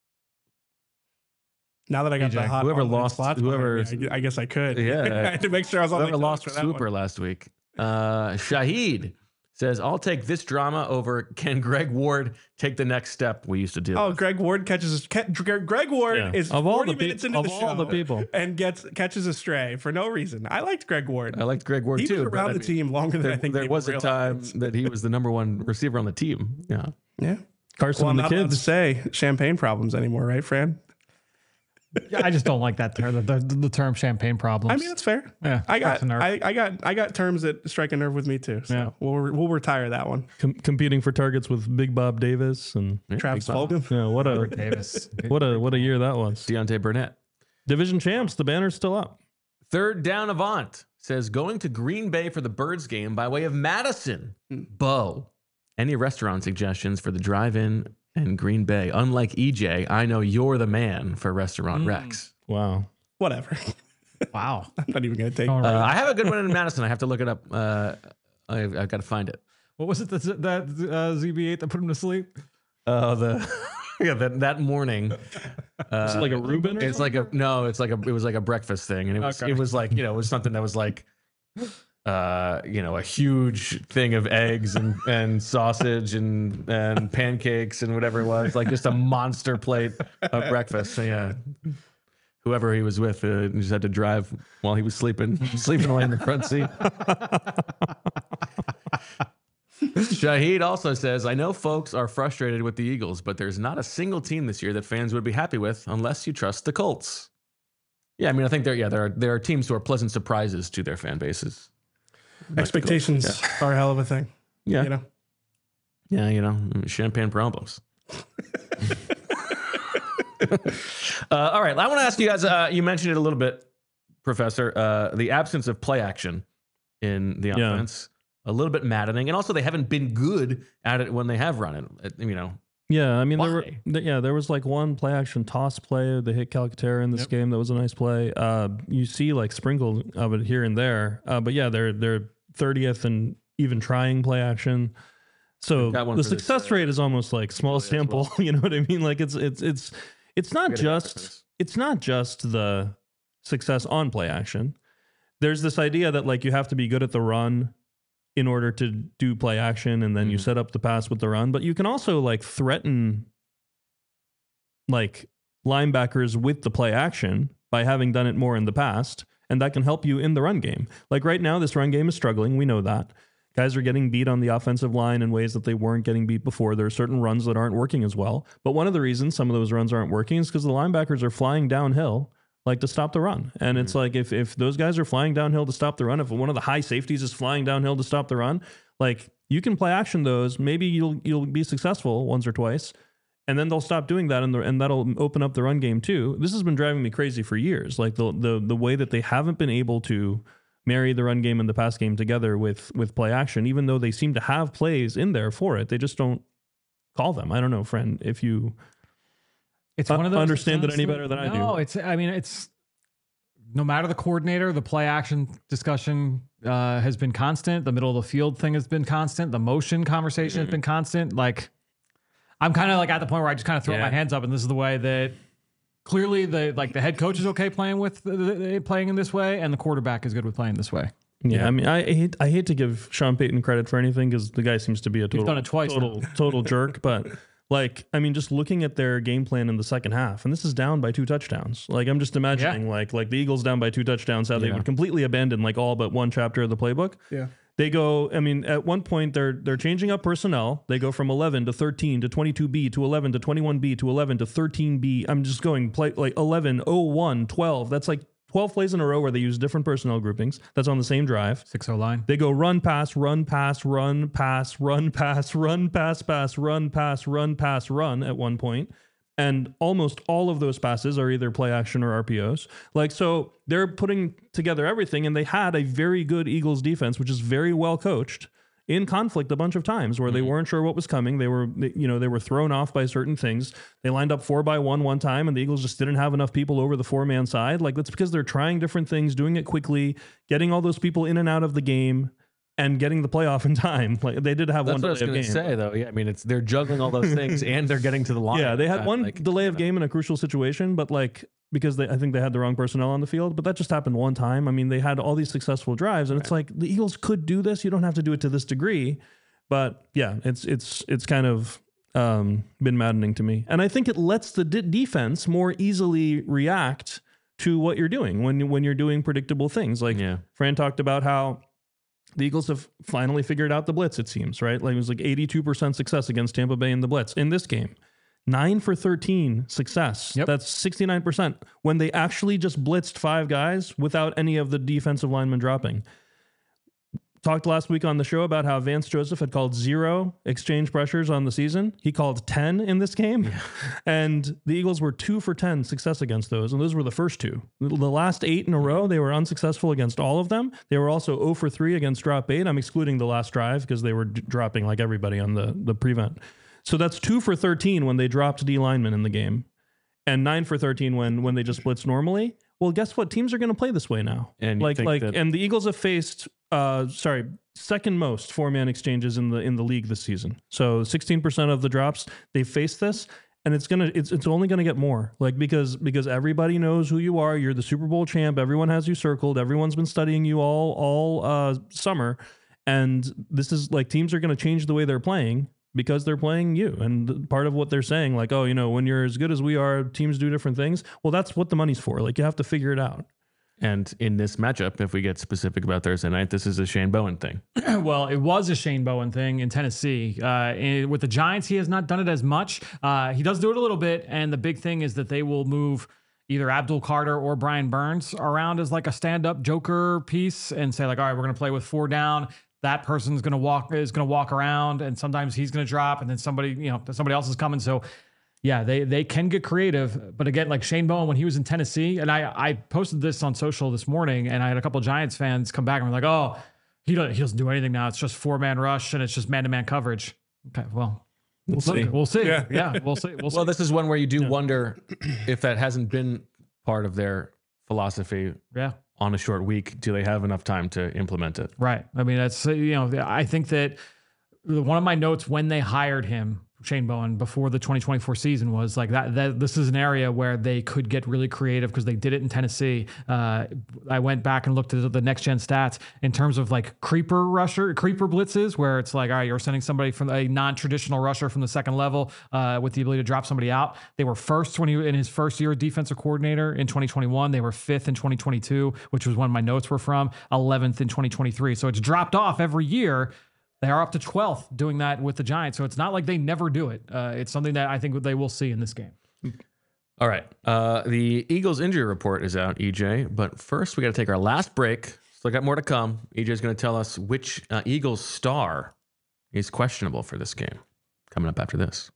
Now that I got P J, the hot whoever online lost- slots whoever- behind me, I, I guess I could. Yeah. I had to make sure I was on my Whoever toes lost for that Super one. last week. Uh, Shahid says, I'll take this drama over can Greg Ward take the next step we used to do. Oh, Greg Ward catches a, ca- Greg Ward Yeah. is Of all forty the pe- minutes into of the all show the people. and gets catches a stray for no reason. I liked Greg Ward. I liked Greg Ward he too. was but around I the mean, team longer than There, I think there people was a time realized. that he was the number one receiver on the team. Yeah. Yeah. Carson Well, I'm and the not allowed to kids. say champagne problems anymore, right, Fran? Yeah, I just don't like that term, the, the, the term champagne problems. I mean, that's fair. yeah, I got, strikes a nerve. I, I got, I got terms that strike a nerve with me too. So Yeah. we'll, we'll retire that one. Com- competing for targets with Big Bob Davis and Yeah, Travis Big Bob. Fulgham. yeah, what a Davis. what a what a year that was. Deontay Burnett. Division champs. The banner's still up. Third down avant. says going to Green Bay for the Birds game by way of Madison. Bo, any restaurant suggestions for the drive-in and Green Bay? Unlike E J, I know you're the man for restaurant Mm. Rex. Wow. Whatever. Wow. I'm not even going to take All it. right. Uh, I have a good one in Madison. I have to look it up. Uh, I've, I've got to find it. What was it that, that uh, Z B eight that put him to sleep? Oh, the yeah, that that morning. Uh, Is it like a Reuben or It's like a no. It's like a. It was like a breakfast thing, and it was Okay. it was like you know it was something that was like, uh, you know, a huge thing of eggs and and sausage and and pancakes and whatever it was, like just a monster plate of breakfast. So yeah. Whoever he was with uh, just had to drive while he was sleeping, sleeping away in the front seat. Shahid also says, I know folks are frustrated with the Eagles, but there's not a single team this year that fans would be happy with unless you trust the Colts. Yeah, I mean, I think there, yeah, there are there are teams who are pleasant surprises to their fan bases. Expectations are a hell of a thing. Yeah, You know? yeah, you know, champagne problems. uh, all right, I want to ask you guys. Uh, you mentioned it a little bit, Professor. Uh, the absence of play action in the Yeah. offense, a little bit maddening, and also they haven't been good at it when they have run it. it you know, Yeah, I mean, there were, Why? th- yeah, there was like one play action toss play. They hit Calcaterra in this Yep. game. That was a nice play. Uh, you see like sprinkles of it here and there. Uh, but yeah, they're they're thirtieth and even trying play action. So Got one the for this, success uh, rate is almost like small as well. sample. You know what I mean? Like it's it's it's it's not Gotta get back to just this. it's not just the success on play action. There's this idea that like you have to be good at the run in order to do play action, and then you Mhm. set up the pass with the run. But you can also like threaten like linebackers with the play action by having done it more in the past, and that can help you in the run game. Like right now, this run game is struggling. We know that. Guys are getting beat on the offensive line in ways that they weren't getting beat before. There are certain runs that aren't working as well. But one of the reasons some of those runs aren't working is because the linebackers are flying downhill like to stop the run. And it's like if if those guys are flying downhill to stop the run, if one of the high safeties is flying downhill to stop the run, like you can play action those. Maybe you'll you'll be successful once or twice. And then they'll stop doing that, and, the, and that'll open up the run game too. This has been driving me crazy for years. Like the the the way that they haven't been able to marry the run game and the pass game together with with play action, even though they seem to have plays in there for it, they just don't call them. I don't know, friend, if you It's Uh, one of those. understand it's that any honestly- better than I do. No, it's. I mean, it's no matter the coordinator, the play action discussion uh, has been constant. The middle of the field thing has been constant. The motion conversation has been constant. Like, I'm kind of like at the point where I just kind of throw Yeah. my hands up, and this is the way that clearly the like the head coach is okay playing with the, the, playing in this way, and the quarterback is good with playing this way. Yeah, I mean, I hate I hate to give Sean Payton credit for anything because the guy seems to be a total done it twice total total jerk. But like, I mean, just looking at their game plan in the second half, and this is down by two touchdowns. Like, I'm just imagining like like the Eagles down by two touchdowns, how they Yeah. would completely abandon like all but one chapter of the playbook. Yeah. They go. I mean, at one point they're they're changing up personnel. They go from eleven to thirteen to twenty-two B to eleven to twenty-one B to eleven to thirteen B. I'm just going play like eleven, oh one, twelve. That's like twelve plays in a row where they use different personnel groupings. That's on the same drive. Six O line. They go run, pass, run, pass, run, pass, run, pass, run, pass, pass, run, pass, run, pass, run at one point. And almost all of those passes are either play action or R P Os. Like, so they're putting together everything, and they had a very good Eagles defense, which is very well coached, in conflict a bunch of times where they weren't sure what was coming. They were, they- you know, they were thrown off by certain things. They lined up four by one one time, and the Eagles just didn't have enough people over the four man side. Like, that's because they're trying different things, doing it quickly, getting all those people in and out of the game, and getting the playoff in time. Like, they did have That's one what I was delay going of to game. say, though. Yeah, I mean, it's they're juggling all those things and they're getting to the line. Yeah, they had Uh, one like, delay of game in a crucial situation, but like because they, I think they had the wrong personnel on the field, but that just happened one time. I mean, they had all these successful drives, and it's like the Eagles could do this. You don't have to do it to this degree, but yeah, it's it's it's kind of um, been maddening to me, and I think it lets the de- defense more easily react to what you're doing when you- when you're doing predictable things. Like Yeah. Fran talked about how the Eagles have finally figured out the blitz, it seems, right? Like it was like eighty-two percent success against Tampa Bay in the blitz in this game. Nine for thirteen success. Yep. That's sixty-nine percent when they actually just blitzed five guys without any of the defensive linemen dropping. talked last week on the show about how Vance Joseph had called zero exchange pressures on the season. He called ten in this game. Yeah. And the Eagles were two for ten success against those. And those were the first two. The last eight in a row, they were unsuccessful against all of them. They were also zero for three against drop eight. I'm excluding the last drive because they were d- dropping like everybody on the, the prevent. So that's two for thirteen when they dropped D linemen in the game, and nine for thirteen when when they just blitz normally. Well, guess what? Teams are going to play this way now. And like like that- and the Eagles have faced uh sorry, second most four-man exchanges in the in the league this season. So sixteen percent of the drops they faced this, and it's going to it's it's only going to get more. Like because because everybody knows who you are. You're the Super Bowl champ. Everyone has you circled. Everyone's been studying you all all uh summer, and this is like teams are going to change the way they're playing because they're playing you. And part of what they're saying, like, oh, you know, when you're as good as we are, teams do different things. Well, that's what the money's for. Like, you have to figure it out. And in this matchup, if we get specific about Thursday night, this is a Shane Bowen thing. Well, it was a Shane Bowen thing in Tennessee. Uh, and with the Giants, he has not done it as much. Uh, he does do it a little bit. And the big thing is that they will move either Abdul Carter or Brian Burns around as like a stand-up joker piece and say like, all right, we're going to play with four down. That person's going to walk is going to walk around, and sometimes he's going to drop, and then somebody, you know, somebody else is coming. So, yeah, they they can get creative. But again, like Shane Bowen when he was in Tennessee, and I I posted this on social this morning, and I had a couple of Giants fans come back and were like, oh, he doesn't he doesn't do anything now. It's just four man rush and it's just man to man coverage. Okay, well. We'll see. We'll see. Yeah. Yeah, we'll see. We'll see. Well, this is one where you do wonder if that hasn't been part of their philosophy yeah. on a short week. Do they have enough time to implement it? Right. I mean, that's, you know, I think that one of my notes when they hired him, Shane Bowen, before the twenty twenty-four season was like that, that this is an area where they could get really creative because they did it in Tennessee. Uh, I went back and looked at the next gen stats in terms of like creeper rusher, creeper blitzes, where it's like, all right, you're sending somebody from a non-traditional rusher from the second level uh, with the ability to drop somebody out. They were first when he in his first year defensive coordinator in twenty twenty-one. They were fifth in twenty twenty-two, which was when my notes were from, eleventh in twenty twenty-three. So it's dropped off every year. They are up to twelfth doing that with the Giants. So it's not like they never do it. Uh, it's something that I think they will see in this game. All right. Uh, the Eagles injury report is out, E J. But first, we got to take our last break. Still got more to come. E J is going to tell us which uh, Eagles star is questionable for this game. Coming up after this.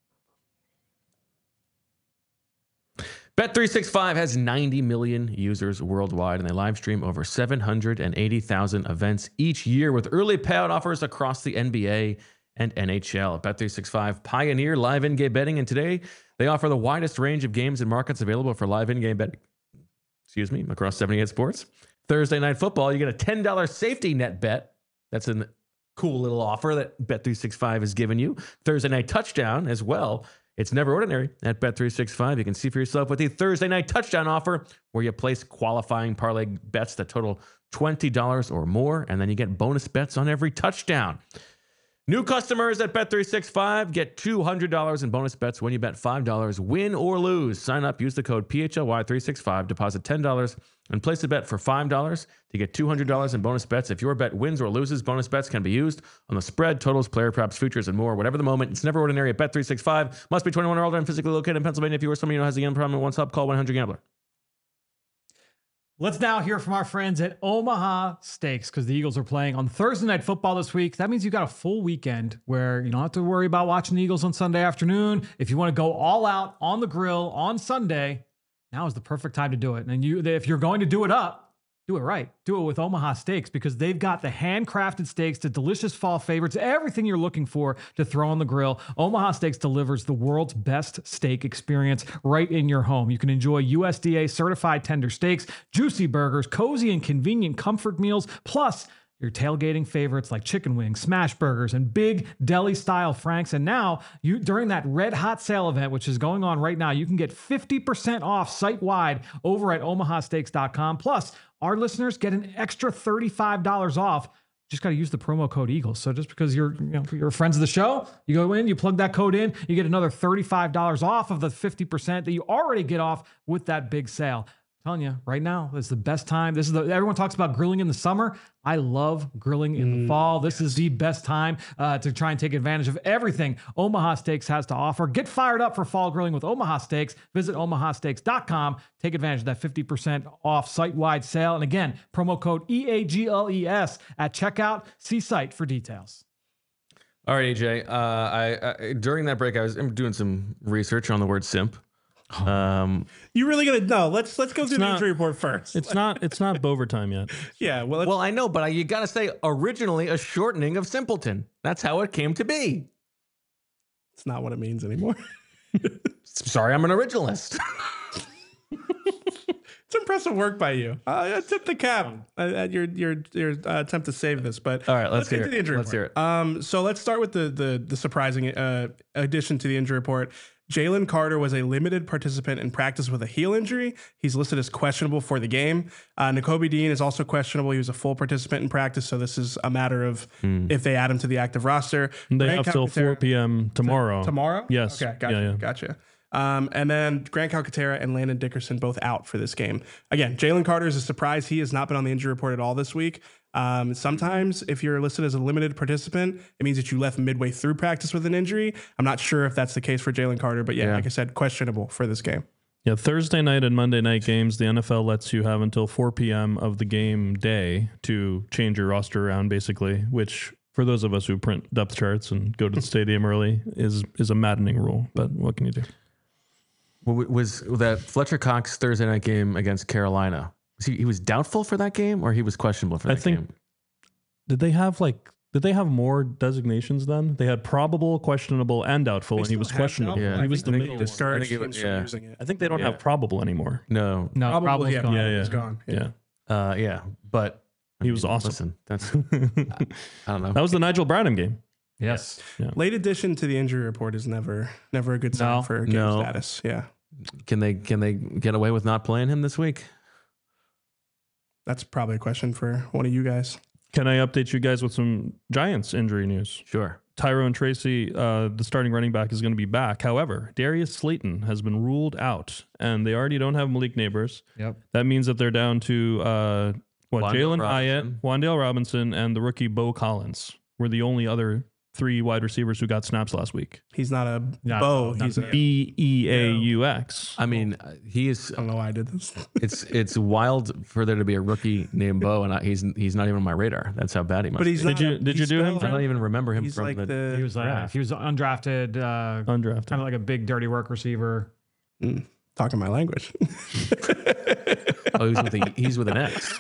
Bet three sixty-five has ninety million users worldwide, and they live stream over seven hundred eighty thousand events each year with early payout offers across the N B A and N H L. Bet three sixty-five pioneer live in-game betting, and today they offer the widest range of games and markets available for live in-game betting. Excuse me, across seventy-eight sports. Thursday Night Football, you get a ten dollars safety net bet. That's a cool little offer that Bet three sixty-five has given you. Thursday Night Touchdown as well. It's never ordinary at Bet three sixty-five. You can see for yourself with the Thursday Night Touchdown offer, where you place qualifying parlay bets that total twenty dollars or more, and then you get bonus bets on every touchdown. New customers at Bet three sixty-five get two hundred dollars in bonus bets when you bet five dollars, win or lose. Sign up, use the code P H L Y three sixty-five, deposit ten dollars, and place a bet for five dollars to get two hundred dollars in bonus bets. If your bet wins or loses, bonus bets can be used on the spread, totals, player props, futures, and more. Whatever the moment, it's never ordinary at Bet three sixty-five. Must be twenty-one or older and physically located in Pennsylvania. If you or someone you know has a gambling problem and wants help, call one hundred gambler. Let's now hear from our friends at Omaha Steaks, because the Eagles are playing on Thursday Night Football this week. That means you've got a full weekend where you don't have to worry about watching the Eagles on Sunday afternoon. If you want to go all out on the grill on Sunday, now is the perfect time to do it. And you, if you're going to do it up, do it right. Do it with Omaha Steaks, because they've got the handcrafted steaks, the delicious fall favorites, everything you're looking for to throw on the grill. Omaha Steaks delivers the world's best steak experience right in your home. You can enjoy U S D A certified tender steaks, juicy burgers, cozy and convenient comfort meals, plus your tailgating favorites like chicken wings, smash burgers, and big deli style franks. And now, you during that red hot sale event, which is going on right now, you can get fifty percent off site wide over at omaha steaks dot com. Plus, our listeners get an extra thirty-five dollars off. Just got to use the promo code Eagles. So just because you're, you know, you're friends of the show, you go in, you plug that code in, you get another thirty-five dollars off of the fifty percent that you already get off with that big sale. telling you right now, it's the best time. This is the everyone talks about grilling in the summer. I love grilling in the fall. This is the best time uh, to try and take advantage of everything Omaha Steaks has to offer. Get fired up for fall grilling with Omaha Steaks. Visit omaha steaks dot com. Take advantage of that fifty percent off site-wide sale. And again, promo code E A G L E S at checkout. See site for details. All right, A J. Uh, I, I during that break, I was doing some research on the word simp. Um, You really gonna no? Let's let's go through the not- injury report first. It's not it's not Bover time yet. yeah. Well, let's, well, I know, but I, you got to say originally a shortening of simpleton. That's how it came to be. it's not what it means anymore. Sorry, I'm an originalist. It's impressive work by you. Uh, I tip the cap at your your your uh, attempt to save this. But All right, let's get hear to it. the injury Let's hear report. Um, so let's start with the the the surprising uh, addition to the injury report. Jalen Carter was a limited participant in practice with a heel injury. He's listed as questionable for the game. Uh, Nakobe Dean is also questionable. He was a full participant in practice, so this is a matter of if they add him to the active roster. They Grant have till Calcaterra- four p.m. tomorrow. Tomorrow? Yes. Okay, gotcha. Yeah, yeah. Gotcha. Um, and then Grant Calcaterra and Landon Dickerson both out for this game. Again, Jalen Carter is a surprise. He has not been on the injury report at all this week. Um, sometimes if you're listed as a limited participant, it means that you left midway through practice with an injury. I'm not sure if that's the case for Jalen Carter, but yeah, Yeah. like I said, questionable for this game. Yeah, Thursday night and Monday night games, the N F L lets you have until four p.m. of the game day to change your roster around, basically, which for those of us who print depth charts and go to the stadium early is is a maddening rule. But what can you do? W- Was that Fletcher Cox Thursday night game against Carolina? Was he, he was doubtful for that game, or he was questionable for I that think- game? Did they have like did they have more designations then? They had probable, questionable, and doubtful, and he was questionable. Yeah. He was the I think middle. they one. discouraged Discouraged I think it teams was- from yeah. using it. I think they don't Yeah. have probable anymore. No. No, Probably, probably yeah, gone. Yeah, yeah. It's gone. Yeah. Uh, yeah, but I He was awesome. Listen, that's that I don't know. was the Nigel Bradham game. Yes. Late addition to the injury report is never never a good sign No. for game No. status. Yeah. Can they can they get away with not playing him this week? That's probably a question for one of you guys. Can I update you guys with some Giants injury news? Sure. Tyrone Tracy, uh, the starting running back, is going to be back. However, Darius Slayton has been ruled out, and they already don't have Malik Neighbors. Yep. That means that they're down to uh, what Wan'Dale Jalen Hyatt, Robinson. Wan'Dale Robinson, and the rookie Bo Collins were the only other three wide receivers who got snaps last week. He's not a Not- bow. not He's a. B E A U X. I mean, uh, he is. I don't know why I did this. It's it's wild for there to be a rookie named Bo, and I, he's he's not even on my radar. That's how bad he must. But he's be. not. Did you- a- did you he's do him, spelled- I don't even remember him He's from like the. the. He was uh, he was undrafted, uh, Undrafted. kind of like a big dirty work receiver. Mm, talking my language. Oh, he's with a, he's with an X.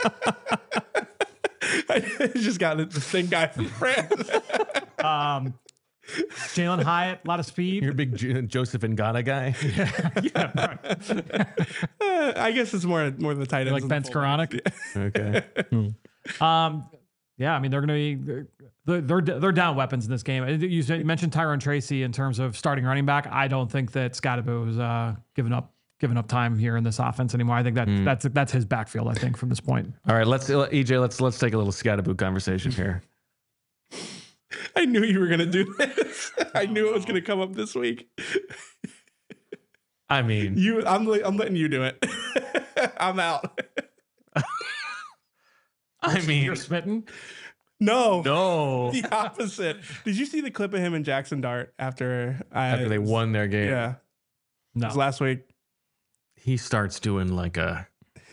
I just got the same guy from France. Um, Jalen Hyatt, a lot of speed. You're a big J- Joseph Ngata guy. yeah, right. Uh, I guess it's more more the tight ends. Like than Ben the fullbacks. Skoranek. Okay. Um, yeah, I mean they're going to be they're, they're they're down weapons in this game. You said- you mentioned Tyrone Tracy in terms of starting running back. I don't think that Scottaboo is uh, giving up giving up time here in this offense anymore. I think that that's that's his backfield. I think from this point. All right. Let's E J. Let's let's take a little Scatterboot conversation here. I knew you were gonna do this. I knew it was gonna come up this week. I mean, You, I'm le- I'm letting you do it. I'm out. I mean, You're smitten. No, no. the opposite. Did you see the clip of him and Jackson Dart after I, After they won their game, Yeah, it No. was last week. he starts doing like a.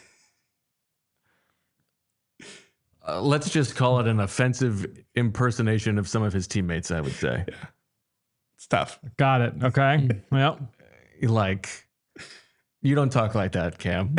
Uh, let's just call it an offensive impersonation of some of his teammates. I would say, It's tough. Got it. Okay. Well, like, you don't talk like that, Cam.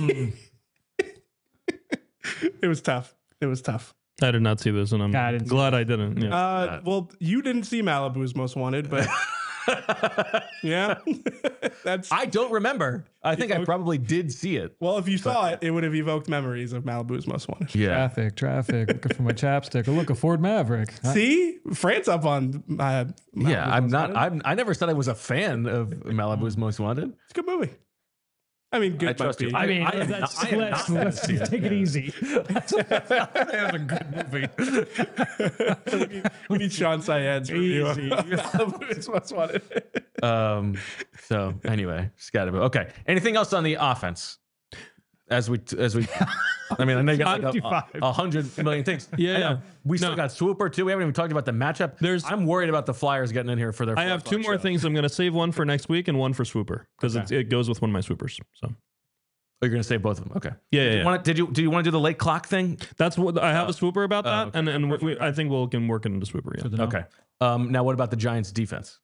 It was tough. It was tough. I did not see this, and I'm Yeah, I didn't see glad I didn't. Yeah. Uh, well, you didn't see Malibu's Most Wanted, but yeah, that's I don't remember. I think I probably did see it. well. If you saw it, it would have evoked memories of Malibu's Most Wanted. Yeah. traffic, traffic. Looking for my chapstick. Look, a Ford Maverick. See, France up on uh, Malibu's Yeah, I'm Most not. Wanted. I'm, I never said I was a fan of Malibu's Most Wanted. It's a good movie. I mean, good. I trust might you. be. I mean, I am that's, not- I am let's, not let's gonna see take it easy. That's a good movie. we need Sean Syed's review of Easy. Malibu's Most Wanted. Um. So anyway, Scatterbo. Okay. Anything else on the offense? as we as we. I mean, I know you got like a, fifty-five. a, a hundred million things. Yeah, I know. yeah. We still No. got Swooper too. We haven't even talked about the matchup. There's- I'm worried about the Flyers getting in here for their. I have two more show. things. I'm going to save one for next week and one for Swooper because Okay. it, it goes with one of my Swoopers. So Oh, you're gonna save both of them. Okay. yeah, yeah, Did you yeah. want? Did you? Do you want to do the late clock thing? That's what I have a Swooper about that, okay. and and we, we, I think we'll can work it into Swooper. Yeah. Good to know. Okay. Um, now, what about the Giants' defense?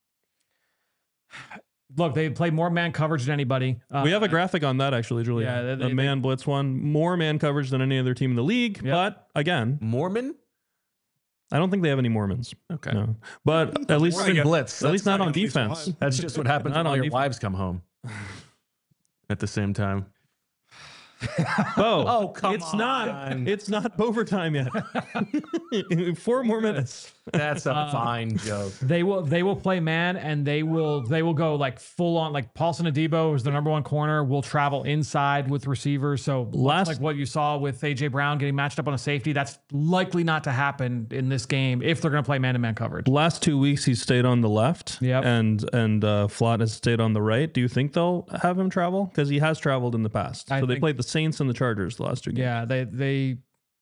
Look, they play more man coverage than anybody. Uh, We have a graphic on that actually, Julia. Yeah, they- the they- man blitz one, more man coverage than any other team in the league. Yep. But again, Mormon. I don't think they have any Mormons. Okay. No, but at least Mormon blitz. at least That's not on at least defense. one. That's just what happens Not when all on your defense. wives come home at the same time. Bo, Oh, come it's on. not. It's not overtime yet. Four more minutes. That's a fine joke. They will they will play man and they will they will go like full on like Paulson Adebo is the number one corner, will travel inside with receivers. So Last- like what you saw with A J Brown getting matched up on a safety, that's likely not to happen in this game if they're going to play man to man coverage. Last two weeks he's stayed on the left. Yep. And and uh, Flott has stayed on the right. Do you think they'll have him travel? Because he has traveled in the past. I so they think- played the Saints and the Chargers the last two games. Yeah, they they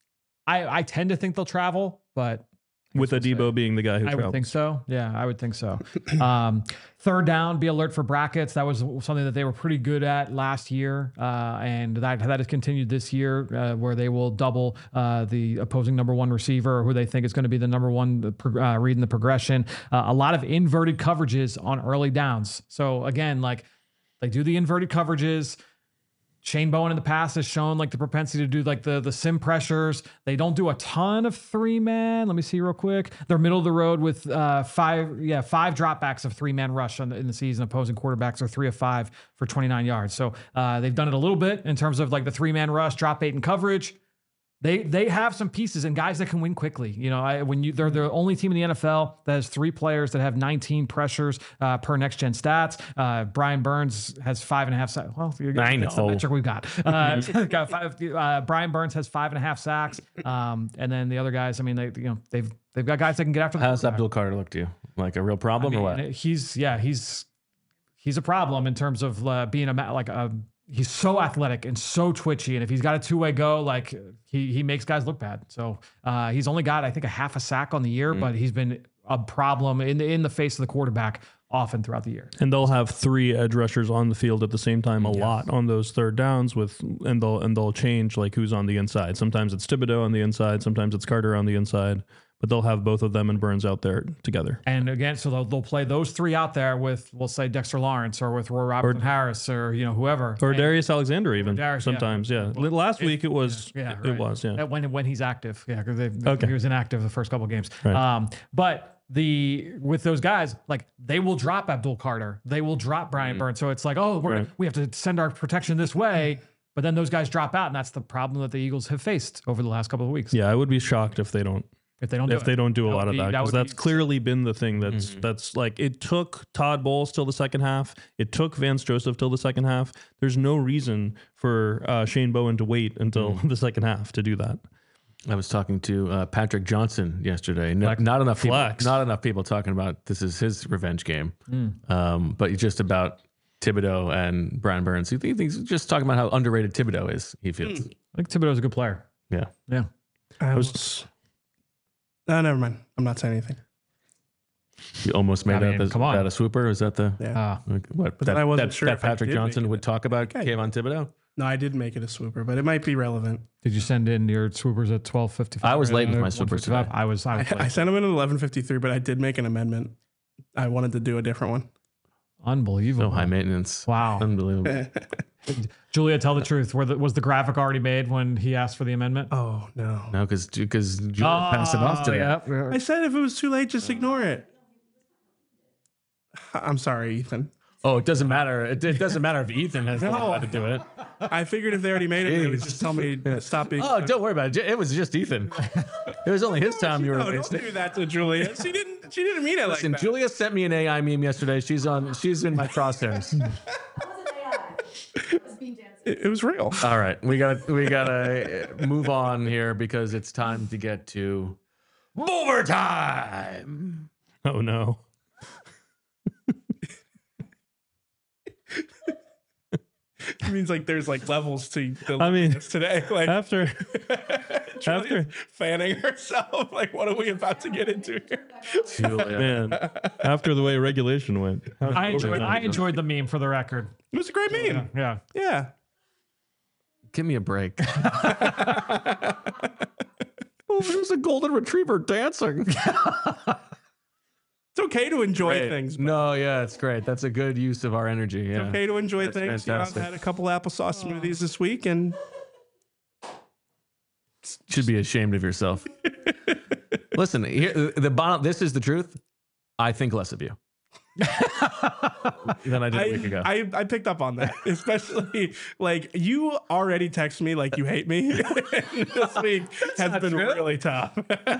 I I tend to think they'll travel, but With Adebo being the guy who I travels. would think so. Yeah, I would think so. Um, third down, be alert for brackets. That was something that they were pretty good at last year, uh, and that that has continued this year, uh, where they will double uh, the opposing number one receiver, who they think is going to be the number one uh, reading the progression. Uh, a lot of inverted coverages on early downs. So again, like they do the inverted coverages. Shane Bowen in the past has shown like the propensity to do like the the sim pressures. They don't do a ton of three man. Let me see real quick. They're middle of the road with uh, five, yeah, five dropbacks of three man rush on the, in the season. Opposing quarterbacks are three of five for twenty-nine yards. So uh, they've done it a little bit in terms of like the three man rush, drop eight and coverage. They they have some pieces and guys that can win quickly. You know, I, when you they're the only team in the N F L that has three players that have nineteen pressures uh, per next gen stats. Uh, Brian Burns has five and a half sacks. Well, I that's the know. metric we've got. Uh, got five, uh, Brian Burns has five and a half sacks, um, and then the other guys. I mean, they you know they've they've got guys that can get after the How's quarterback. Abdul Carter look to you? Like a real problem I mean, or what? He's yeah, he's he's a problem in terms of uh, being a ma- like a. He's so athletic and so twitchy, and if he's got a two-way go, like he he makes guys look bad. So uh, he's only got I think a half a sack on the year, Mm. but he's been a problem in the, in the face of the quarterback often throughout the year. And they'll have three edge rushers on the field at the same time a lot on those third downs with and they'll and they'll change like who's on the inside. Sometimes it's Thibodeau on the inside, sometimes it's Carter on the inside, but they'll have both of them and Burns out there together. And again, so they'll, they'll play those three out there with, we'll say Dexter Lawrence or with Roy Robertson Harris or you know whoever. Or And- Darius Alexander even Darius, yeah. sometimes, yeah. Last week it was Yeah, it right. was, yeah. Uh, When when he's active, yeah, because Okay. he was inactive the first couple of games. Right. Um, but the with those guys, like they will drop Abdul Carter, they will drop Brian Burns. So it's like, oh, we're Right. we have to send our protection this way, but then those guys drop out, and that's the problem that the Eagles have faced over the last couple of weeks. Yeah, I would be shocked if they don't If they don't do if it. they don't do a That lot would of be- that that because would that's be- clearly been the thing that's that's like it took Todd Bowles till the second half. It took Vance Joseph till the second half. There's no reason for uh, Shane Bowen to wait until the second half to do that. I was talking to uh, Patrick Johnson yesterday. No, Flex. not enough people, Flex. not enough people talking about this is his revenge game, Mm. um, but just about Thibodeau and Brian Burns. He th- he's just talking about how underrated Thibodeau is. He feels, I think Thibodeau's a good player. yeah. Yeah. I was- was. No, never mind. I'm not saying anything. You almost made I mean, up as, come on. that a swooper. Is that the Yeah. Uh, what? But that, I wasn't that, sure that if I Patrick did Johnson make would it. talk about Okay. Kayvon Thibodeau. No, I did make it a swooper, but it might be relevant. did you send in your swoopers at twelve fifty-five? I was late with my swoopers today. I was. I was I, I late. sent him in at eleven fifty-three, but I did make an amendment. I wanted to do a different one. Unbelievable. So high maintenance. Wow. Unbelievable. Julia, tell the truth. Were the, was the graphic already made when he asked for the amendment? Oh no! No, because because Julia passed it off today. Oh, yeah. I said if it was too late, just ignore it. I'm sorry, Ethan. Oh, it doesn't matter. It, it doesn't matter if Ethan has the how to do it. I figured if they already made it, they would just tell me to stop being. Oh, don't worry about it. It was just Ethan. It was only his time you were no, don't wasting. do that to Julia. She didn't. She didn't mean it like Listen, that. Julia sent me an A I meme yesterday. She's on. She's in my crosshairs. That wasn't A I. It was being dancing. It, it was real. All right, we got to we got to move on here because it's time to get to overtime. Oh no. means like there's like levels to the I mean, this today. Like after after fanning herself. Like, what are we about to get into here? Julia. man, after the way regulation went, I enjoyed, I enjoyed the meme for the record. It was a great meme. Yeah. Yeah. Give me a break. Oh, there's a golden retriever dancing. It's okay to enjoy Great. things. but No, yeah, it's great. That's a good use of our energy. Yeah. It's okay to enjoy That's things. You know, I've fantastic. had a couple applesauce smoothies this week, and Should be ashamed of yourself. Listen, here, the bottom. This is the truth. I think less of you than I did a week ago. I, I I picked up on that, especially like you already text me like you hate me. This week has been really tough.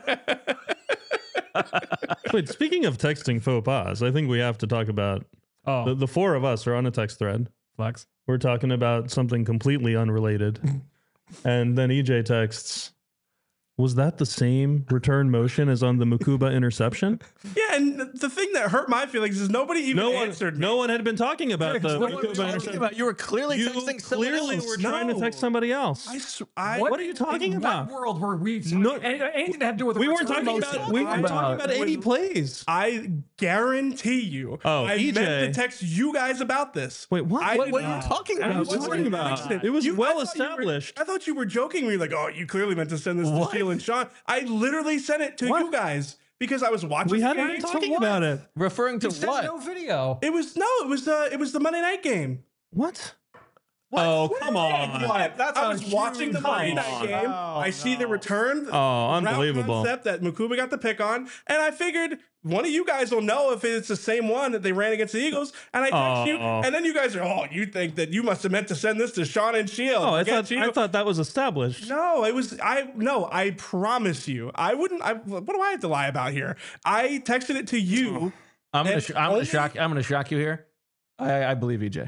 Wait, speaking of texting faux pas, I think we have to talk about Oh, the, the four of us are on a text thread. flex. We're talking about something completely unrelated. And then E J texts, was that the same return motion as on the Mukuba interception? Yeah, and the thing that hurt my feelings is nobody even No one, answered me. no one had been talking about the What are you Mukuba talking interception. about? You were clearly You texting someone clearly else. were trying to No. text somebody else. I, s- I What are you talking In about? what world were we? No- any- anything to have to do with We weren't return talking motion? about. We weren't talking I- about eighty plays. I guarantee you, Oh, I E J. meant to text you guys about this. Wait, what? I What, did what are you not. talking I about? was What are you talking talking about? about It was You- I well thought you were- established. I thought you were joking me, like, oh, you clearly meant to send this to Sheila and Sean. I literally sent it to What? you guys because I was watching. We the hadn't game. been talking about it. Referring to You sent what? no video. It was no, it was uh, it was the Monday night game. What? Oh, come on. What? That's I a was watching the huge Monday come night on. game. Oh, I see the return. Oh, route unbelievable. Concept that Mukuba got the pick on, and I figured one of you guys will know if it's the same one that they ran against the Eagles. And I text you, Oh. and then you guys are, oh, you think that you must have meant to send this to Sean and Shield. Oh, I Forget thought you. I thought that was established. No, it was I. No, I promise you, I wouldn't. I, what do I have to lie about here? I texted it to you. I'm gonna, And sh- I'm only- gonna shock. I'm gonna shock you here. I, I believe E J.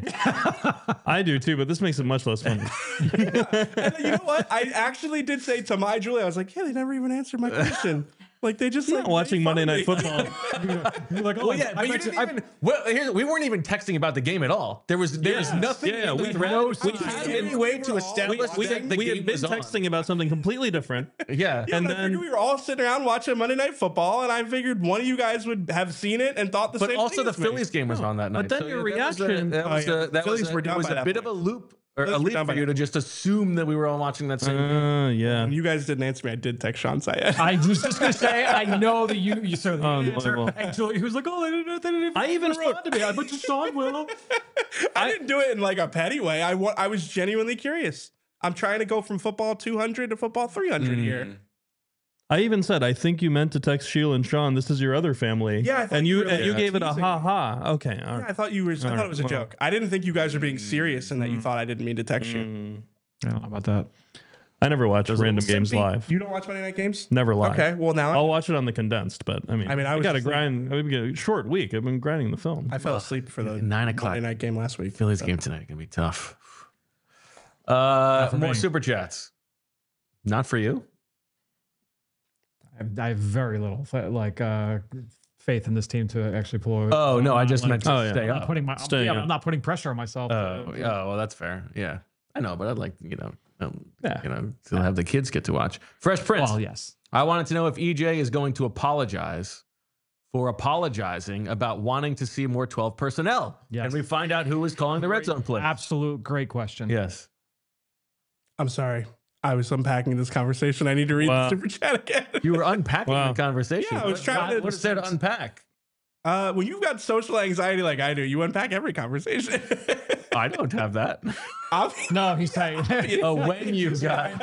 I do too, but this makes it much less funny. And then, you know what? I actually did say to my Julie, I was like, yeah, they never even answered my question. Like they just You're like not watching made fun Monday of Night me. Football. You're like, oh, Well, yeah, I but you bet didn't you- I- even. Well, here's, we weren't even texting about the game at all. There was there was Yeah. nothing. Yeah, in the we thread no which sign. had any way to establish we that had, the we game had been was on. texting about something completely different. Yeah. Yeah, And and I then- figured we were all sitting around watching Monday Night Football, and I figured one of you guys would have seen it and thought the But same also thing the as me. Phillies game was on that night. then So, your yeah, that was a- reaction- That Oh, was yeah. a, that Phillies was a, were it down was by a that bit of point. a loop or Phillies a were leap down by for you that to just assume that we were all watching that same. game. Uh, yeah. And you guys didn't answer me. I did text Sean Sayed. I was just gonna say, I know that you you said the answer. Unbelievable. And Julie, he was like, oh, they didn't, they didn't even I even respond wrote- to me. I bet you Sean will. I didn't do it in like a petty way. I wa- I was genuinely curious. I'm trying to go from football two hundred to football three hundred Mm. here. I even said, I think you meant to text Sheila and Sean. This is your other family. Yeah, I thought and you you were, and like, you gave it a teasing ha me. ha. Okay, all Yeah, right. I thought you were. I thought it was a Alright, well. joke. I didn't think you guys were being serious and that you thought I didn't mean to text you. Mm. I don't know about that. I never watch random games Simpy, live. You don't watch Monday Night games? Never live. Okay, well now I'll watch it on the condensed, but I mean, I mean, I was got to just like- grind. I've got a short week. I've been grinding the film. I fell asleep for the Nine o'clock. Monday Night game last week. Phillies game tonight gonna be tough. Uh, for more me. super chats. Not for you. I have, I have very little like uh, faith in this team to actually pull. Oh no, I I'm just not, meant to Oh, yeah. stay I'm not up. putting my. Staying yeah, up. I'm not putting pressure on myself. Oh, to- yeah, well, that's fair. Yeah, I know, but I'd like you know, um, Yeah. you know, to have the kids get to watch Fresh Prince. Well, yes. I wanted to know if E J is going to apologize for apologizing about wanting to see more twelve personnel. Yes. And we find out who was calling the red zone play. Absolute great question. Yes. I'm sorry. I was unpacking this conversation. I need to read Wow. the super chat again. You were unpacking Wow. the conversation. Yeah, I was What- trying to- What is there to unpack? Uh, when you've got social anxiety like I do, you unpack every conversation. I don't have that. I'm- No, he's saying. Oh, when you got.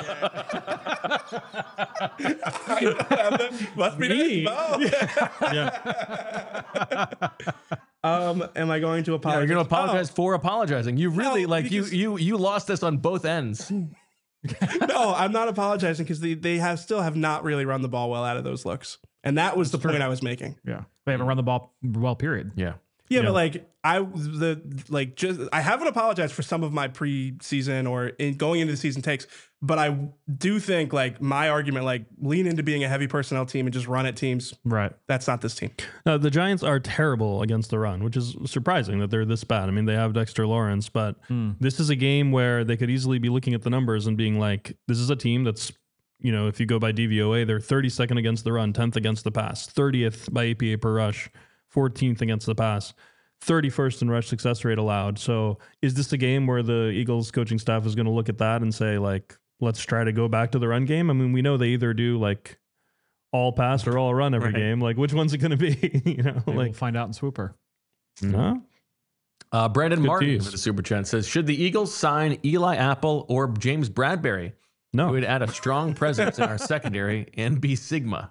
Must be Me? nice. yeah. Um, am I going to Yeah, apologize? you're gonna apologize for apologizing. You really No, like you because- you you lost this on both ends. Oh, no, I'm not apologizing because they, they have still have not really run the ball well out of those looks, and that was the point I was making. Yeah. They haven't run the ball well, period. Yeah. Yeah, Yeah. but like I the like just I haven't apologized for some of my preseason or in going into the season takes, but I do think like my argument, like lean into being a heavy personnel team and just run at teams. Right. That's not this team. Uh, the Giants are terrible against the run, which is surprising that they're this bad. I mean, they have Dexter Lawrence, but this is a game where they could easily be looking at the numbers and being like, this is a team that's, you know, if you go by D V O A, they're thirty-second against the run, tenth against the pass, thirtieth by A P A per rush, fourteenth against the pass, thirty-first in rush success rate allowed. So is this a game where the Eagles coaching staff is going to look at that and say, like, let's try to go back to the run game? I mean, we know they either do like all pass or all run every Right. game. Like, which one's it going to be? you know, Maybe like, we'll find out in Swooper. huh? Uh, Brandon Good Martin tease. with the super chat says, should the Eagles sign Eli Apple or James Bradbury? No. It would add a strong presence in our secondary and be Sigma.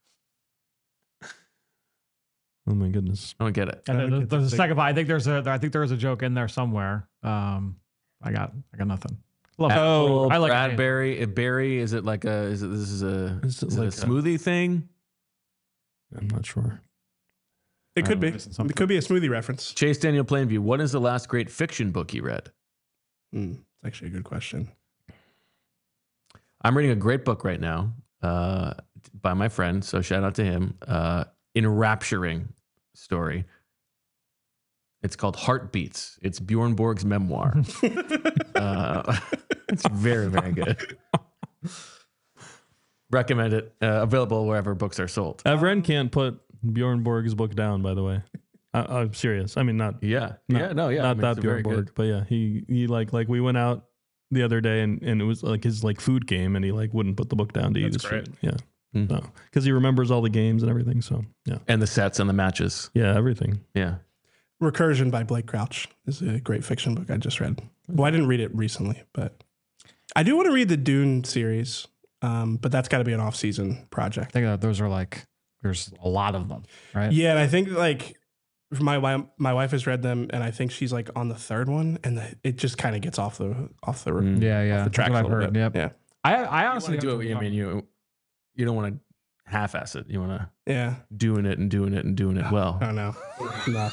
Oh my goodness. I don't get it. And I then don't there's get there's a the second. I think there's a. I think there's a joke in there somewhere. Um, I got. I got nothing. Love Apple, I like Bradbury. uh, Berry. Is it like a? Is it? This is a. Is it Is it like a a- smoothie thing? I'm not sure. It could be. I'm missing something. It could be a smoothie reference. Chase Daniel Plainview. What is the last great fiction book you read? Hmm, it's actually a good question. I'm reading a great book right now uh, by my friend. So shout out to him. Uh, enrapturing story. It's called Heartbeats. It's Bjorn Borg's memoir. uh, it's very, very good. Recommend it. Uh, available wherever books are sold. Evren can't put Bjorn Borg's book down, by the way. I, I'm serious. I mean, not Yeah. Not- yeah. No. Yeah. not I mean, that it's a Bjorn very Borg, good- but yeah, he he like like we went out the other day and, and it was like his like food game and he like wouldn't put the book down to eat That's his great. food. Yeah, Mhm. no, because he remembers all the games and everything. So yeah, And the sets and the matches. yeah, everything. Yeah. Recursion by Blake Crouch is a great fiction book I just read. Well, I didn't read it recently, but I do want to read the Dune series. Um, but that's got to be an off-season project. I think that those are like. There's a lot of them, right? Yeah, and I think like my wi- my wife has read them, and I think she's like on the third one, and the, it just kind of gets off the off the Mm. Yeah. Yeah. off the That's tracks what a I've little heard. bit. Yep. Yeah, I. I You honestly want to do it. I mean, you you don't want to half-ass it. You want to yeah. doing it and doing it and doing it well. Oh no, no.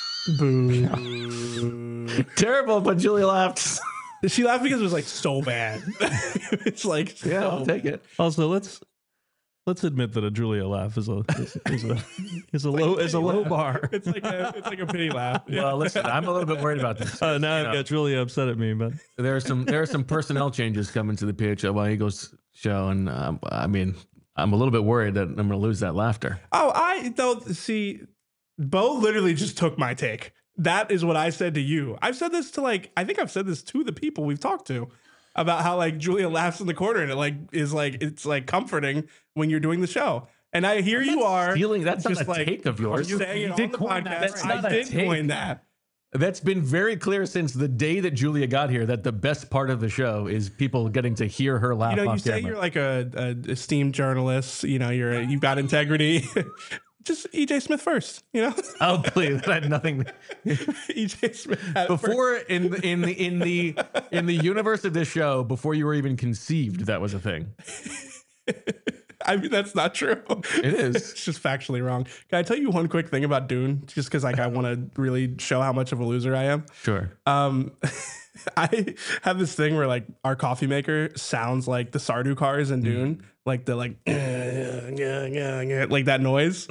Boo. Terrible, but Julia laughed. She laughed because it was like so bad. It's like Yeah, so I'll take it. Also, let's let's admit that a Julia laugh is a is, is a is a low is a low bar. It's like a it's like a pity laugh. Yeah. Well, listen, I'm a little bit worried about this. Uh, now You know, I've got Julia upset at me, but there are some there are some personnel changes coming to the P H L Y Eagles show, and um, I mean, I'm a little bit worried that I'm going to lose that laughter. Oh, I don't see. Bo literally just took my take. That is what I said to you. I've said this to like, I think I've said this to the people we've talked to about how like Julia laughs in the corner and it like is like, it's like comforting when you're doing the show. And I hear you are Stealing that's not just a like take of yours. I'm saying You it did on the coin that. podcast. That's not I a did take. coin that. That's been very clear since the day that Julia got here. That the best part of the show is people getting to hear her laugh You know, you off say camera. you're like a, a esteemed journalist. You know, you're a, you've got integrity. Just E J Smith first. You know, Oh, please! That had nothing. E J Smith had it first. Before in the, in the in the in the universe of this show, before you were even conceived, that was a thing. I mean, that's not true. It is. It's just factually wrong. Can I tell you one quick thing about Dune? Just because like I want to really show how much of a loser I am. Sure. Um, I have this thing where like our coffee maker sounds like the Sardu cars in Dune, like the like yeah, yeah, yeah, yeah, like that noise.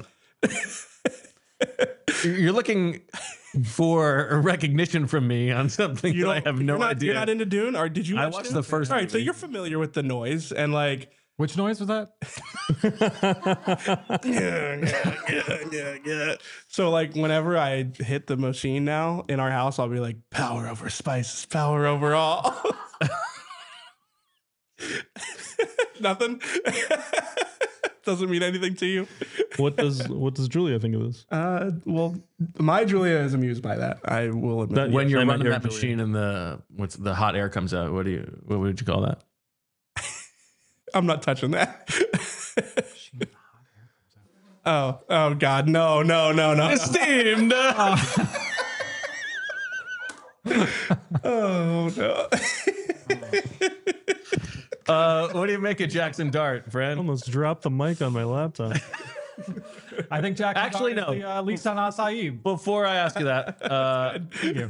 You're looking for recognition from me on something You that I don't have no you're not, idea. You're not into Dune, or did you? I watch watched Dune? the first All right, so movie. you're familiar with the noise and like. Which noise was that? yeah, yeah, yeah, yeah, yeah. So like whenever I hit the machine now in our house, I'll be like, power over spices, power over all. Nothing. Doesn't mean anything to you. what does what does Julia think of this? Uh, well, my Julia is amused by that. I will admit. That- When Yes, you're I meant running your that Julia. machine and the what's the hot air comes out, what do you what would you call that? I'm not touching that. oh, oh God, no, no, no, no. no. Steamed. Oh no. uh, what do you make of Jackson Dart, friend? Almost dropped the mic on my laptop. I think Jack Actually, no. The, uh, least on acai. Before I ask you that, uh,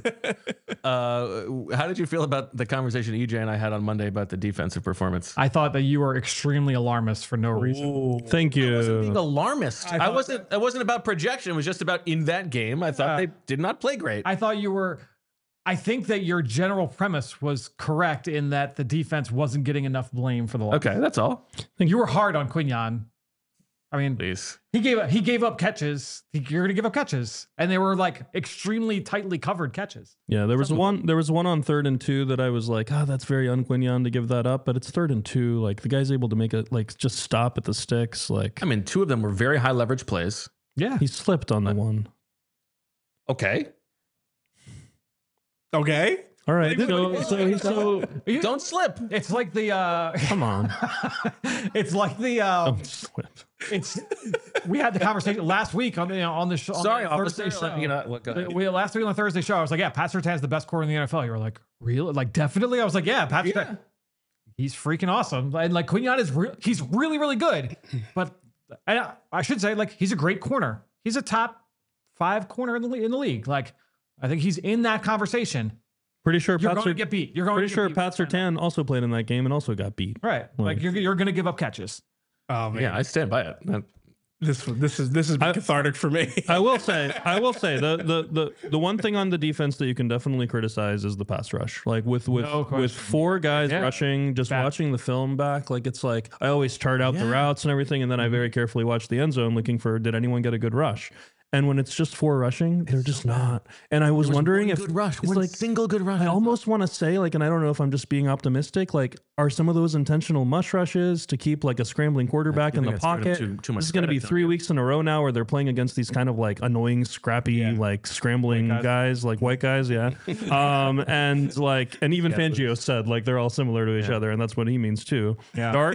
uh, how did you feel about the conversation E J and I had on Monday about the defensive performance? I thought that you were extremely alarmist for no reason. Thank I wasn't being you. alarmist. I, I thought- wasn't. It wasn't about projection. It was just about in that game. I thought Uh, they did not play great. I thought you were. I think that your general premise was correct in that the defense wasn't getting enough blame for the loss. okay, that's all. You were hard on Quignon. I mean, Please. he gave he gave up catches. You're going to give up catches, and they were like extremely tightly covered catches. Yeah, there was one. There was one on third and two that I was like, "Ah, oh, that's very unQuignon to give that up." But it's third and two. Like the guy's able to make it, like just stop at the sticks. Like I mean, two of them were very high leverage plays. Yeah, he slipped on the one. Okay. Okay. All right, so so so You- Don't slip. it's like the. Uh, come on, it's like the. Uh, don't slip. it's we had the conversation last week on the on the show. on Sorry, the officer. Thursday show. You know, what, go ahead. We, last week on the Thursday show, I was like, "Yeah, Pat Surtain's the best corner in the N F L." You were like, "Really?" Like, definitely. I was like, "Yeah, Pat Surtain, he's freaking awesome." And like Quignon is, re- he's really, really good. But and I, I should say, like, he's a great corner. He's a top five corner in the le- in the league. Like, I think he's in that conversation. Pretty sure You're Pat going to Sur- get beat. You're going pretty to get sure beat. Pat Surtain also played in that game and also got beat. Right. Like you're you're going to give up catches. Oh man, Yeah, I stand by it. That- this this is this is I- cathartic for me. I will say, I will say the, the the the one thing on the defense that you can definitely criticize is the pass rush. Like with with No question. with four guys Yeah. rushing, just Bad. watching the film back, like it's like I always chart out the Yeah. routes and everything, and then I very carefully watch the end zone, looking for did anyone get a good rush. And when it's just four rushing, they're just not. And I was, There was wondering one if good rush, it's one like single good rush. I almost want to say, like, and I don't know if I'm just being optimistic, like, are some of those intentional mush rushes to keep like a scrambling quarterback in think the that's giving pocket? them too- too much This is going to be credit, don't three you? weeks in a row now where they're playing against these kind of like annoying, scrappy, Yeah. like scrambling White guys. guys. like white guys, yeah. um, and like, and even Fangio said like they're all similar to each other, and that's what he means too. Yeah. Dart,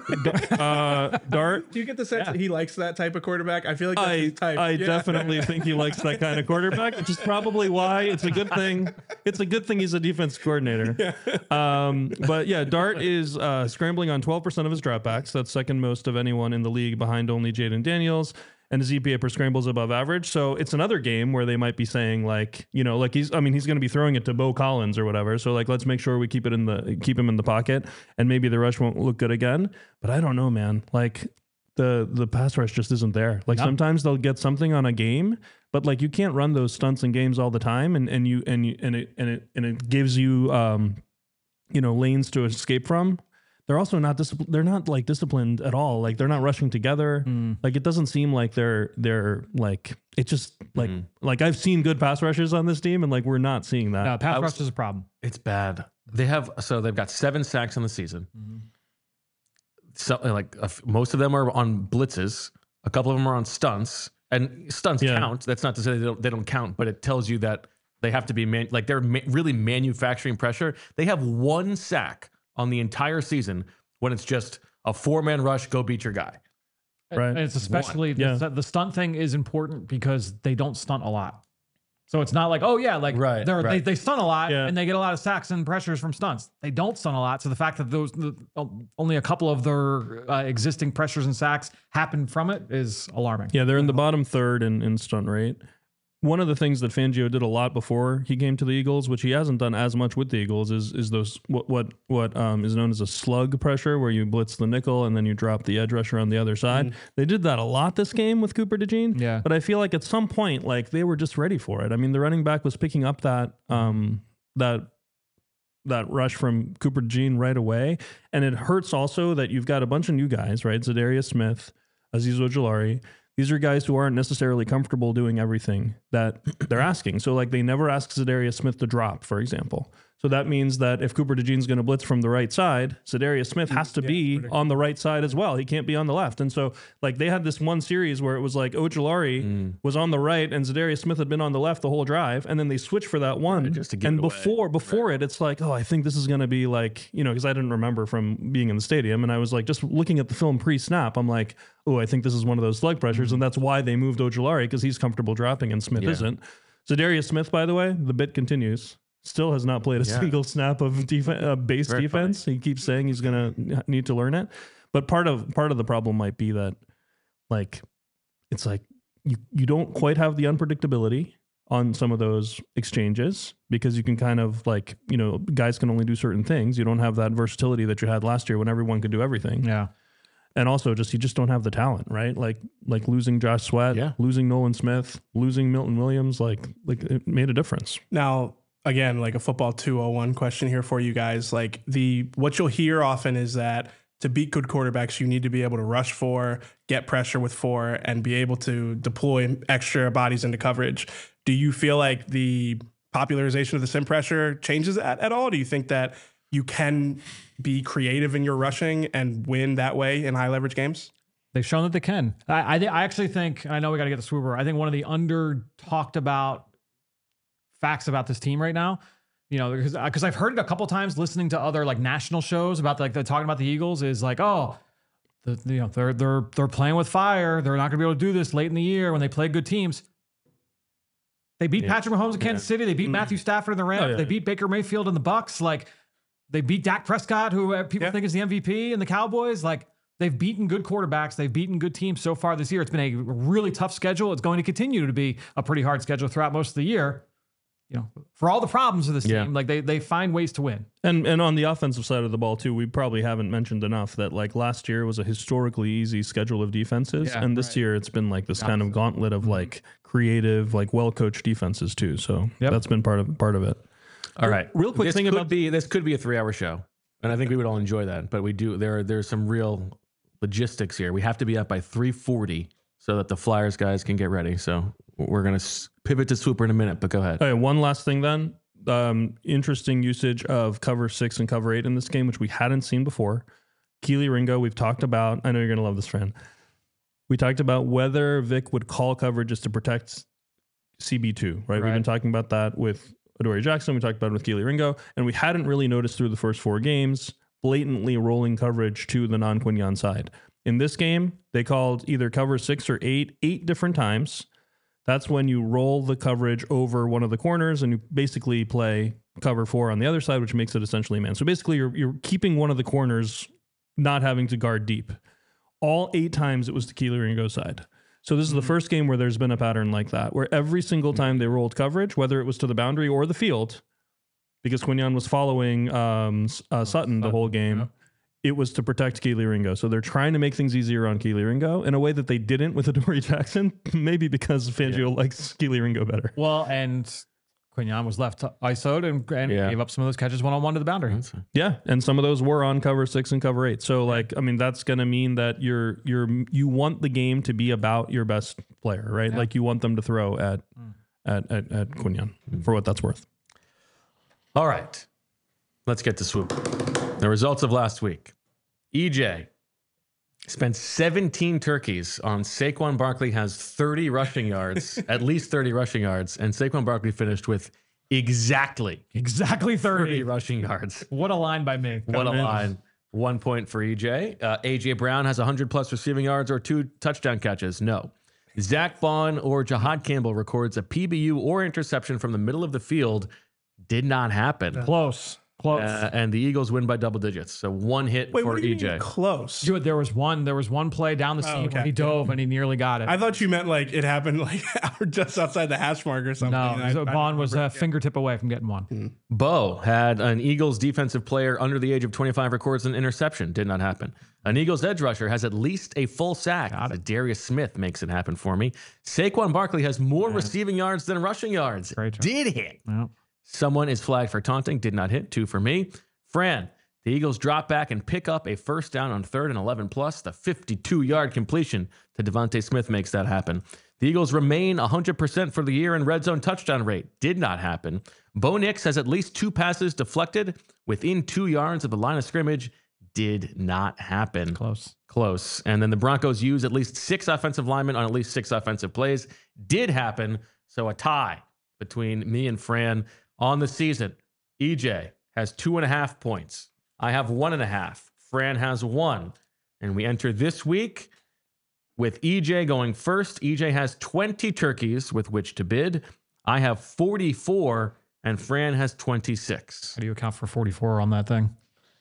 uh, Dart. Do you get the sense Yeah. that he likes that type of quarterback? I feel like that's I, his type. I Yeah. definitely think he likes that kind of quarterback, which is probably why it's a good thing. It's a good thing he's a defense coordinator. Um, but yeah, Dart is uh, scrambling on twelve percent of his dropbacks. That's second most of anyone in the league, behind only Jaden Daniels. And his E P A per scramble is above average. So it's another game where they might be saying like, you know, like he's, I mean, he's going to be throwing it to Bo Collins or whatever. So like, let's make sure we keep it in the, keep him in the pocket, and maybe the rush won't look good again. But I don't know, man. Like the, the pass rush just isn't there. Like No. sometimes they'll get something on a game, but like you can't run those stunts in games all the time. And, and you, and you, and it, and it, and it gives you, um, you know, lanes to escape from. They're also not disciplined. They're not like disciplined at all. Like they're not rushing together. Mm. Like it doesn't seem like they're they're like it just like Mhm. like I've seen good pass rushes on this team, and like we're not seeing that. No, pass I was- rush is a problem. It's bad. They have so they've got seven sacks on the season. So like a f- most of them are on blitzes. A couple of them are on stunts, and stunts Yeah. count. That's not to say they don't, they don't count, but it tells you that they have to be man, like they're ma- really manufacturing pressure. They have one sack on the entire season when it's just a four man rush. Go beat your guy. Right. And it's especially the, Yeah. the stunt thing is important because they don't stunt a lot. So it's not like, oh yeah, like Right, they're, they right. they stunt a lot Yeah. and they get a lot of sacks and pressures from stunts. They don't stunt a lot. So the fact that those the, only a couple of their uh, existing pressures and sacks happen from it is alarming. Yeah, they're in the bottom third in, in stunt rate. One of the things that Fangio did a lot before he came to the Eagles, which he hasn't done as much with the Eagles, is is those what what what um, is known as a slug pressure, where you blitz the nickel and then you drop the edge rusher on the other side. They did that a lot this game with Cooper DeJean. Yeah. but I feel like at some point, like they were just ready for it. I mean, the running back was picking up that um, that that rush from Cooper DeJean right away, and it hurts also that you've got a bunch of new guys, right? Zadarius Smith, Azeez Ojulari. These are guys who aren't necessarily comfortable doing everything that they're asking. So like they never ask Zadarius Smith to drop, for example. So that means that if Cooper DeJean's going to blitz from the right side, Zadarius Smith has to be on the right side as well. He can't be on the left. And so like they had this one series where it was like Ojulari was on the right and Zadarius Smith had been on the left the whole drive. And then they switched for that one. just to give and it away. before before it, it's like, oh, I think this is going to be like, you know, because I didn't remember from being in the stadium. And I was like, just looking at the film pre-snap, I'm like, oh, I think this is one of those slug pressures. And that's why they moved Ojulari, because he's comfortable dropping and Smith Yeah. isn't. Zadarius Smith, by the way, the bit continues. Still has not played a Yeah. single snap of defense, uh, base Very defense. He keeps saying he's going to need to learn it. But part of part of the problem might be that, like, it's like you you don't quite have the unpredictability on some of those exchanges because you can kind of like, you know, guys can only do certain things. You don't have that versatility that you had last year when everyone could do everything. Yeah. And also just, you just don't have the talent, right? Like, like losing Josh Sweat, Yeah. losing Nolan Smith, losing Milton Williams, like, like it made a difference. Now, again, like a football two oh one question here for you guys. Like the, what you'll hear often is that to beat good quarterbacks, you need to be able to rush four, get pressure with four, and be able to deploy extra bodies into coverage. Do you feel like the popularization of the sim pressure changes that at all? Do you think that you can be creative in your rushing and win that way in high leverage games? They've shown that they can. I I, th- I actually think, I know we got to get the swooper. I think one of the under talked about facts about this team right now, you know, because because I've heard it a couple times listening to other like national shows about like they're talking about the Eagles is like, oh, the, you know, they're they're they're playing with fire. They're not going to be able to do this late in the year when they play good teams. They beat Yeah. Patrick Mahomes in Kansas City. They beat Matthew Stafford in the Rams. Oh, yeah. They beat Baker Mayfield in the Bucks. Like they beat Dak Prescott, who uh, people Yeah. think is the M V P, and the Cowboys. Like they've beaten good quarterbacks. They've beaten good teams so far this year. It's been a really tough schedule. It's going to continue to be a pretty hard schedule throughout most of the year. You know, for all the problems of this Yeah. team, like they they find ways to win. And and on the offensive side of the ball too, we probably haven't mentioned enough that like last year was a historically easy schedule of defenses, Yeah, and this right. year it's been like this kind of gauntlet of like creative, like well coached defenses too. So Yep. that's been part of part of it. All right. Real quick this thing could about- be this could be a three hour show, and I think we would all enjoy that. But we do there. There's some real logistics here. We have to be up by three forty so that the Flyers guys can get ready. So we're gonna s- pivot to Swooper in a minute. But go ahead. Okay, one last thing then. Um, interesting usage of cover six and cover eight in this game, which we hadn't seen before. Keely Ringo, we've talked about. I know you're gonna love this, Fran. We talked about whether Vic would call coverages to protect C B two, right? We've Right. been talking about that with Adoree Jackson. We talked about it with Keely Ringo, and we hadn't really noticed through the first four games blatantly rolling coverage to the non-Quinyon side. In this game, they called either cover six or eight, eight different times. That's when you roll the coverage over one of the corners and you basically play cover four on the other side, which makes it essentially man. So basically you're you're keeping one of the corners not having to guard deep. All eight times it was the Keely Ringo side. So this is the first game where there's been a pattern like that, where every single time they rolled coverage, whether it was to the boundary or the field, because Quinyon was following um, uh, Sutton the whole game, Yep. it was to protect Keely Ringo. So they're trying to make things easier on Keely Ringo in a way that they didn't with Adoree Jackson, maybe because Fangio likes Keely Ringo better. Well, and Quinyon was left I S O'd and, and Yeah. gave up some of those catches one on one to the boundary. That's fine. Yeah, and some of those were on cover six and cover eight. So like, I mean, that's going to mean that you're you're you want the game to be about your best player, right? Yeah. Like you want them to throw at at at, at Quinyon for what that's worth. All right. Let's get to Swoop. The results of last week. E J spent seventeen turkeys on Saquon Barkley has thirty rushing yards, at least thirty rushing yards, and Saquon Barkley finished with exactly Exactly thirty thirty. rushing yards. What a line by me. What a line. One point for E J. Uh, A J Brown has one hundred plus receiving yards or two touchdown catches. No. Zach Bond or Jahad Campbell records a P B U or interception from the middle of the field. Did not happen. Close. Close. Uh, and the Eagles win by double digits. So one hit Wait, for what do you E J. mean close? Dude, there was one. There was one play down the seam okay. where he dove and he nearly got it. I thought you meant like it happened like just outside the hash mark or something. no, And I- so I Bond was remember- a fingertip away from getting one. Bo had an Eagles defensive player under the age of twenty-five records an interception. Did not happen. An Eagles edge rusher has at least a full sack. Darius Smith makes it happen for me. Saquon Barkley has more receiving yards than rushing yards. Great job. Did hit. Yep. Someone is flagged for taunting. Did not hit. Two for me. Fran, the Eagles drop back and pick up a first down on third and eleven plus. The fifty-two-yard completion to Devontae Smith makes that happen. The Eagles remain one hundred percent for the year in red zone touchdown rate. Did not happen. Bo Nix has at least two passes deflected within two yards of the line of scrimmage. Did not happen. Close. Close. And then the Broncos use at least six offensive linemen on at least six offensive plays. Did happen. So a tie between me and Fran on the season. E J has two and a half points. I have one and a half. Fran has one. And we enter this week with E J going first. E J has twenty turkeys with which to bid. I have forty-four, and Fran has twenty-six. How do you account for forty-four on that thing?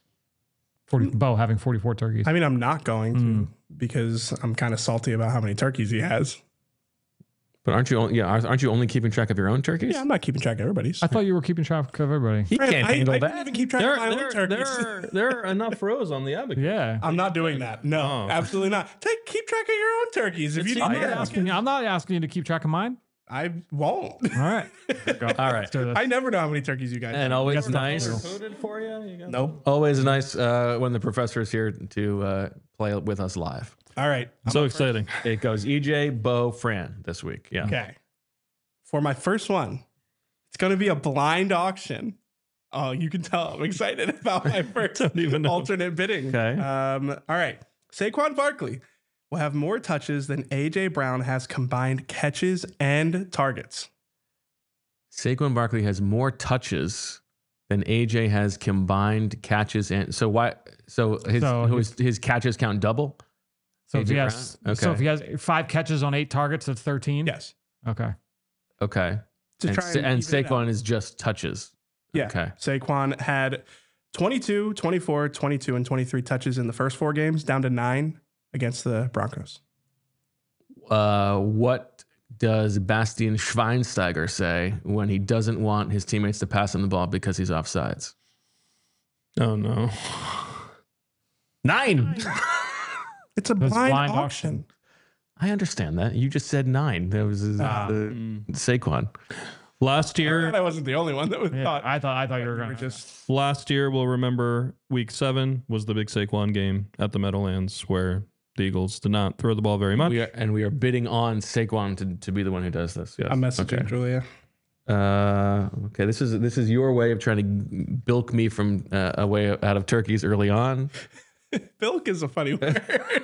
forty, Bo having forty-four turkeys. I mean, I'm not going to because I'm kind of salty about how many turkeys he has. But aren't you? Only, yeah, aren't you only keeping track of your own turkeys? Yeah, I'm not keeping track of everybody's. I thought you were keeping track of everybody. He Fran, can't I, handle I that. didn't even keep track There, of my own there, turkeys. there, are, there are enough rows on the abacus. Yeah. I'm not doing that. No, Oh. absolutely not. Take keep track of your own turkeys. If you I'm need not, more, asking, I'm not asking you to keep track of mine. I won't. All right. Go. All right. Let's do this. I never know how many turkeys you guys And have. always got stuff nice. to Coded for you. You got Nope. Always nice uh, when the professor is here to uh, play with us live. All right. I'm so up exciting. It goes E J, Bo, Fran this week. Yeah. first. Okay. For my first one, it's going to be a blind auction. Oh, you can tell I'm excited about my first Don't even know. alternate bidding. Okay. Um, all right. Saquon Barkley will have more touches than A J Brown has combined catches and targets. Saquon Barkley has more touches than A J has combined catches and so why? So his So his, his catches count double. So if A J he has, Brown? so Okay. if he has five catches on eight targets, that's thirteen. Yes. Okay. Okay. To And, try Sa- and, and even it out. Saquon is just touches. Yeah. Okay. Saquon had twenty-two, twenty-four, twenty-two, and twenty-three touches in the first four games, down to nine against the Broncos. Uh, what does Bastian Schweinsteiger say when he doesn't want his teammates to pass him the ball because he's offsides? Oh no. Nine. It's a That's blind, blind auction. I understand that. You just said nine. That was uh, Ah. the Mm. Saquon. Last year, I wasn't the only one that was Yeah, thought. I thought I thought you were we going were to just last year we'll remember week seven was the big Saquon game at the Meadowlands where the Eagles did not throw the ball very much. We are, and we are bidding on Saquon to, to be the one who does this. Yes. I'm messaging Okay. Julia. Uh, okay. This is this is your way of trying to bilk me from uh, a way out of turkeys early on. Bilk is a funny word.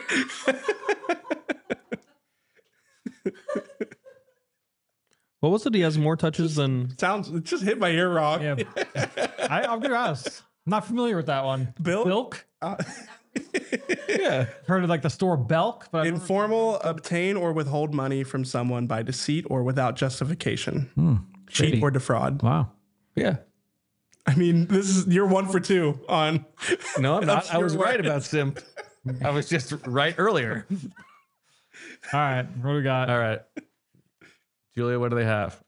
What was it? He has more touches than Sounds it just hit my ear wrong. Yeah. I, I'm going to ask. I'm not familiar with that one. Bilk? Bilk? Uh, Yeah. Heard of like the store Belk, but I don't- informal, obtain or withhold money from someone by deceit or without justification. Hmm, Cheat shady. or defraud. Wow. Yeah. I mean, this is you're one for two on. No, I'm not. I was Obscure right words. about simp. I was just right earlier. All right. What do we got? All right. Julia, what do they have?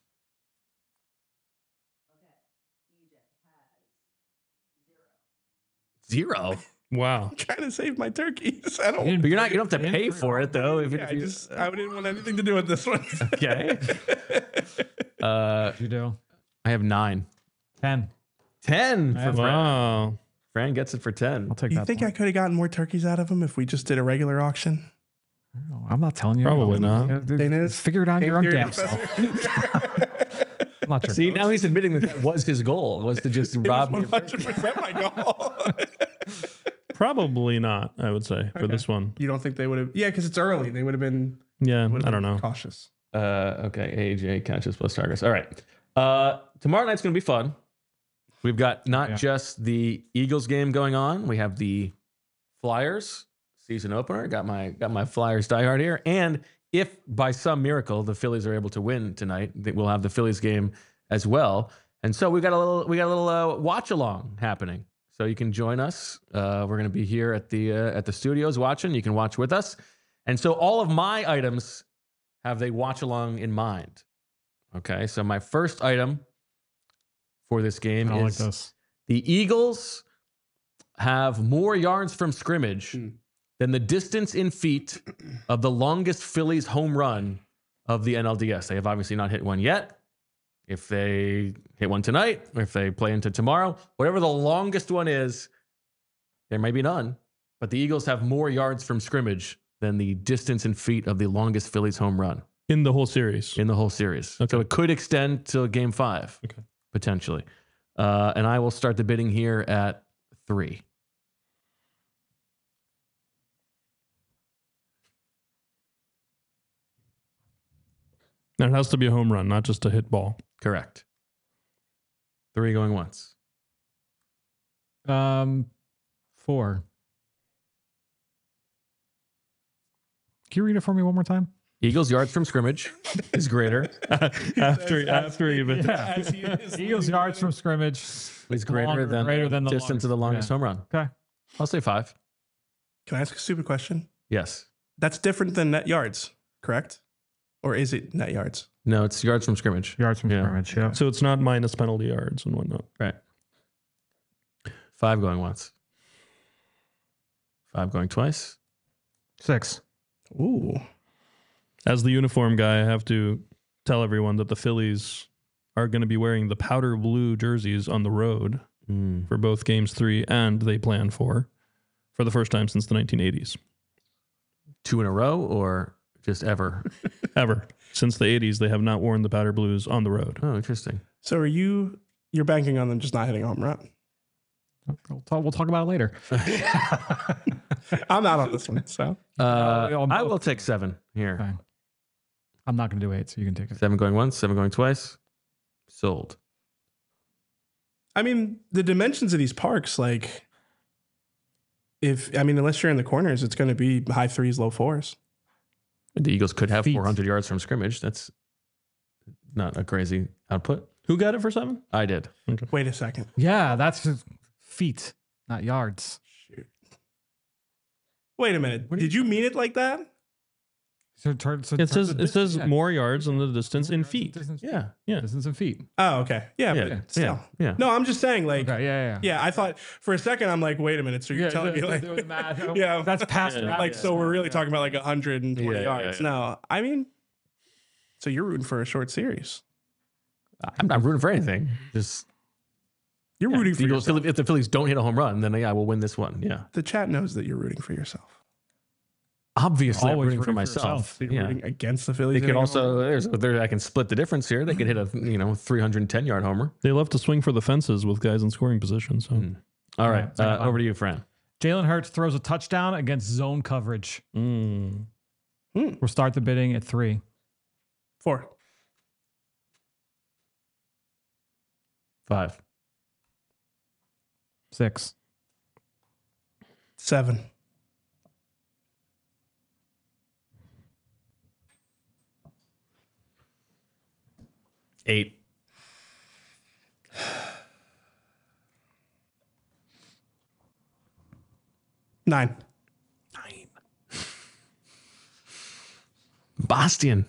Zero. wow. Trying to save my turkeys. I don't. You didn't- But you're not. You don't have to you pay didn't- for it though. If, Yeah, if I you, just I didn't want anything to do with this one. okay. Uh, You do. I have nine. ten. Ten for Yeah. Fran. Wow. Fran gets it for ten. I'll take You that. think I point. could have gotten more turkeys out of him if we just did a regular auction? No, I'm not telling you. Probably not. Yeah, dude, Dana's- Figure it out your own Figure it damn out. self. I'm not sure. See, now he's admitting that that was his goal, was to just rob me. one hundred percent my goal. Probably not, I would say, for this one. You don't think they would have? Yeah, because it's early. They would have been. Yeah, would've I been don't know. Cautious. Uh, okay, A J catches plus targets. All right. Uh, tomorrow night's going to be fun. We've got not Yeah. just the Eagles game going on. We have the Flyers season opener. Got my got my Flyers diehard here. And if by some miracle the Phillies are able to win tonight, th- we'll have the Phillies game as well. And so we got a little we got a little uh, watch along happening. So you can join us. Uh, we're going to be here at the uh, at the studios watching. You can watch with us. And so all of my items have they watch along in mind. Okay, so my first item for this game I don't like is this. the Eagles have more yards from scrimmage Hmm. than the distance in feet of the longest Phillies home run of the N L D S. They have obviously not hit one yet. If they hit one tonight, or if they play into tomorrow, whatever the longest one is, there may be none. But the Eagles have more yards from scrimmage than the distance in feet of the longest Phillies home run In the whole series. in the whole series. Okay. So it could extend to game five, Okay. potentially. Uh, and I will start the bidding here at three. And it has to be a home run, not just a hit ball. Correct. Three going once. Um, four. Can you read it for me one more time? Eagles yards from scrimmage is greater. after after even. Yeah. As he is Eagles yards from scrimmage Is greater longer- than, greater than the distance of the longest yeah. home run. Okay. I'll say five. Can I ask a stupid question? Yes. That's different than net yards, correct? Or is it net yards? No, it's yards from scrimmage. Yards from Yeah. scrimmage. Yeah. So it's not minus penalty yards and whatnot. Right. Five going once. Five going twice. Six. Ooh. As the uniform guy, I have to tell everyone that the Phillies are going to be wearing the powder blue jerseys on the road Mm. for both games three and they plan for, for the first time since the nineteen eighties. Two in a row or just ever? Ever. Since the eighties, they have not worn the powder blues on the road. Oh, interesting. So are you, you're banking on them just not hitting a home run? We'll talk, we'll talk about it later. I'm not on this one, so. Uh, No, I will take seven here. Okay. I'm not going to do eight, so you can take it. Seven going once, seven going twice. Sold. I mean, the dimensions of these parks, like, if, I mean, unless you're in the corners, it's going to be high threes, low fours. The Eagles could have Feet. four hundred yards from scrimmage. That's not a crazy output. Who got it for seven? I did. Wait a second. Yeah, that's just feet, not yards. Shoot. Wait a minute. What do Did you mean it like that? So, turn, so It turn says the it says distance- more yards than the distance in feet. Distance, Yeah. Yeah. distance in feet. Oh, okay. Yeah, Yeah. but Yeah. still. Yeah. No, I'm just saying, like, Okay, yeah, yeah. yeah, I thought for a second, I'm like, wait a minute. So you're telling me, like, doing the math. yeah, That's past Yeah. math. like, so we're really talking about like one hundred twenty Yeah, yeah, yards. yeah. No, I mean, so you're rooting for a short series. I'm not rooting for anything. Just You're yeah, rooting the for Eagles, yourself. if the Phillies don't hit a home run, then yeah, we'll win this one. Yeah. The chat knows that you're rooting for yourself. Obviously, I'm Always rooting for rooting for myself. yourself. So you're Yeah. rooting against the Phillies. They could hitting a also home run? there's there I can split the difference here. They could hit a you know three hundred ten yard homer. They love to swing for the fences with guys in scoring position. So Mm. All right, Yeah, it's like uh, a- over to you, Fran. Jalen Hurts throws a touchdown against zone coverage. Mm. We'll start the bidding at three. Four. Five. Six. Seven. Eight. Nine. Nine. Bastian.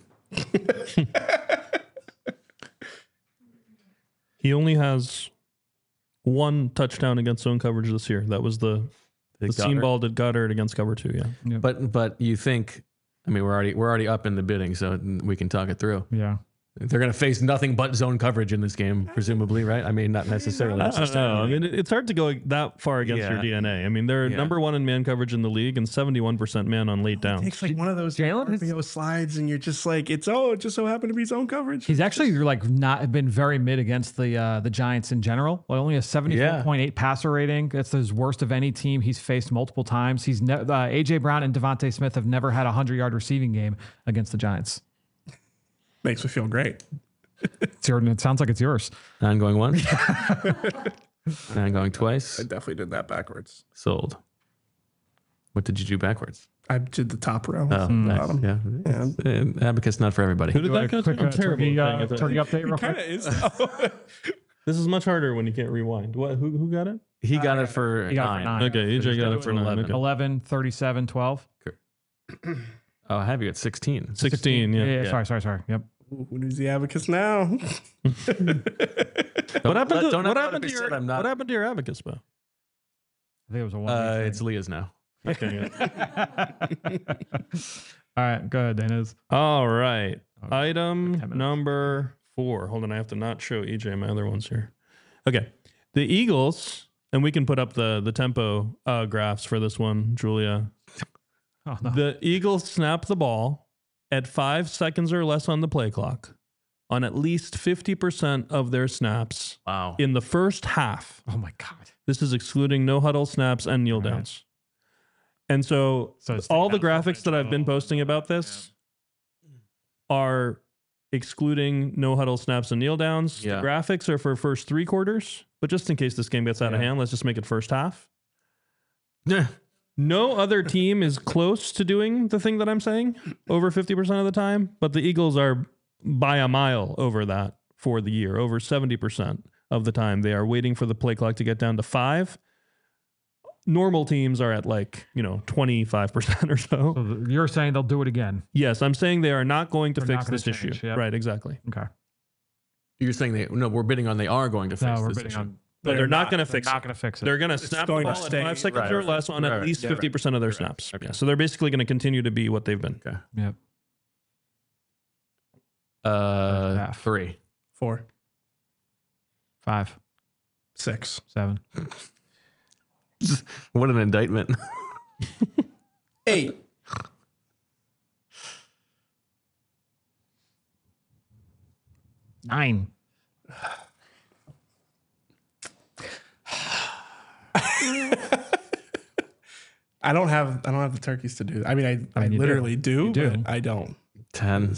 He only has one touchdown against zone coverage this year. That was the, the seam Goddard. ball to Goddard against cover two. Yeah. But but you think? I mean, we're already we're already up in the bidding, so we can talk it through. Yeah. They're going to face nothing but zone coverage in this game, presumably, right? I mean, not necessarily. I don't know. I mean, it- it's hard to go that far against Yeah. your D N A. I mean, they're Yeah. number one in man coverage in the league and seventy-one percent man on late It downs. takes like one of those Jalen is- R P O slides, and you're just like, it's oh, it just so happened to be zone coverage. He's actually like not been very mid against the uh, the Giants in general. Well, only a seventy-four point eight passer rating. That's his worst of any team he's faced multiple times. He's ne- uh, A J Brown and Devontae Smith have never had a hundred yard receiving game against the Giants. Makes me feel great. It's your, it sounds like it's yours. Nine going once. Nine going twice. I definitely did that backwards. Sold. What did you do backwards? I did the top row. Oh, from the nice. bottom. Yeah. Yeah. Uh, Abacus not for everybody. Who did that go to? Quick, I'm uh, terrible. turkey, at uh, paying turkey attention. update real It kind quick. of is. though. This is much harder when you can't rewind. What? Who? Who got it? He got it for He got it for nine. nine. Okay, E J got it for nine. eleven. Okay. eleven, thirty-seven, twelve. Oh, I have you at sixteen. Sixteen. Yeah. Yeah, Yeah. Sorry, sorry, sorry. Yep. Ooh, who needs the abacus now? What happened let- to don't what ever happened be to your said I'm not- what happened to your abacus, Bo? I think it was a one. Uh, it's Leah's now. Okay. All right, go ahead, Dana's. All right. Okay. Item ten minutes. number four. Hold on, I have to not show E J my other ones here. Okay. The Eagles, and we can put up the the tempo uh, graphs for this one, Julia. Oh, no. The Eagles snap the ball at five seconds or less on the play clock on at least fifty percent of their snaps Wow. in the first half. Oh my God. This is excluding no huddle snaps and kneel Right. downs. And so, So it's all the the graphics that I've been posting about this are excluding no huddle snaps and kneel downs. Yeah. The graphics are for first three quarters, but just in case this game gets out of Yeah. hand, let's just make it first half. Yeah. No other team is close to doing the thing that I'm saying over fifty percent of the time, but the Eagles are by a mile over that for the year. Over seventy percent of the time, they are waiting for the play clock to get down to five. normal teams are at like, you know, twenty-five percent or so. So th- you're saying they'll do it again? Yes, I'm saying they are not going to They're fix not gonna this issue. change, yep. Right, exactly. Okay. You're saying they no, we're bidding on they are going to fix No, we're this bidding issue. on. But they're, not, going to They're fix not it. going to fix it. They're going to snap the going to ball at stay. five seconds Right, or right. less on Right, at right. least Yeah, fifty percent of their Right. snaps. Okay. Yeah, so they're basically going to continue to be what they've been. Okay. Yep. Uh, half. three. Four, Five, six, seven. What an indictment. eight. Nine. I don't have I don't have the turkeys to do that. I mean, I, I, mean, you do. literally do, You do. but I don't. Ten.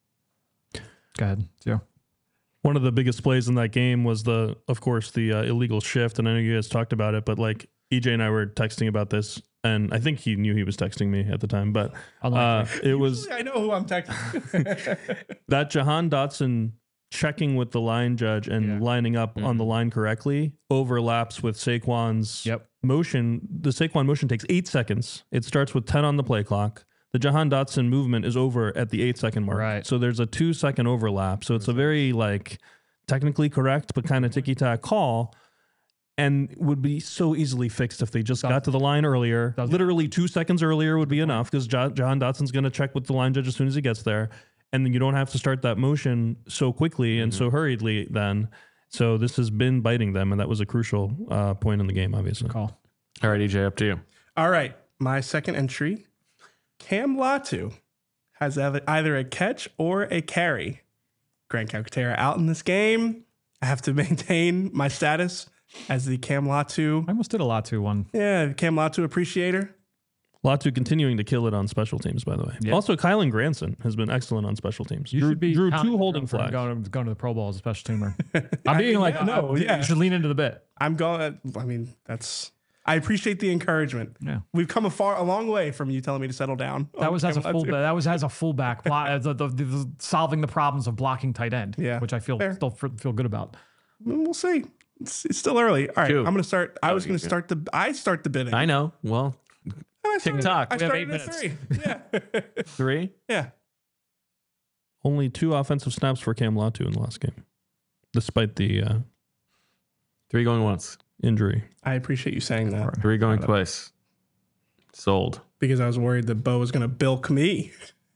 Go ahead. Zero. One of the biggest plays in that game was the, of course, the uh, illegal shift. And I know you guys talked about it, but like E J and I were texting about this, and I think he knew he was texting me at the time, but uh, Unlikely. it was I know who I'm texting. that Jahan Dotson checking with the line judge and Yeah. lining up on the line correctly overlaps with Saquon's Yep. motion. The Saquon motion takes eight seconds. It starts with ten on the play clock. The Jahan Dotson movement is over at the eight second mark. Right. So there's a two second overlap. So it's a very like technically correct, but kind of ticky tack call, and would be so easily fixed if they just got to the line earlier. Doesn't- Literally two seconds earlier would be enough because Jahan Dotson's going to check with the line judge as soon as he gets there. And then you don't have to start that motion so quickly and so hurriedly then. So this has been biting them, and that was a crucial uh, point in the game, obviously. Call. All right, E J, up to you. All right, my second entry, Cam Latu has ev- either a catch or a carry. Grant Calcaterra out in this game. I have to maintain my status as the Cam Latu, I almost did a lot to one. yeah, Cam Latu appreciator. Latu continuing to kill it on special teams, by the way. Yeah. Also, Kylan Granson has been excellent on special teams. You drew, should be drew counting two holding for flags. Going to, going to the Pro Bowl as a special teamer. I'm being like, yeah, no, no, yeah. you should lean into the bit. I'm going. I mean, that's. I appreciate the encouragement. Yeah. We've come a far, a long way from you telling me to settle down. That on was as a Cam full. Latu. That was as a fullback, block, uh, the, the, the, solving the problems of blocking tight end. Yeah, which I feel fair. still f- feel good about. We'll see. It's, it's still early. All right, Two. I'm going to start. I was you going to go. start the. I start the bidding. I know. Well, I started- TikTok. I We have started eight at minutes. three. Yeah. three. yeah. Only two offensive snaps for Cam Latu in the last game, despite the uh, Three going once. injury. I appreciate you saying that Three going twice. Sold. because I was worried that Bo was going to bilk me.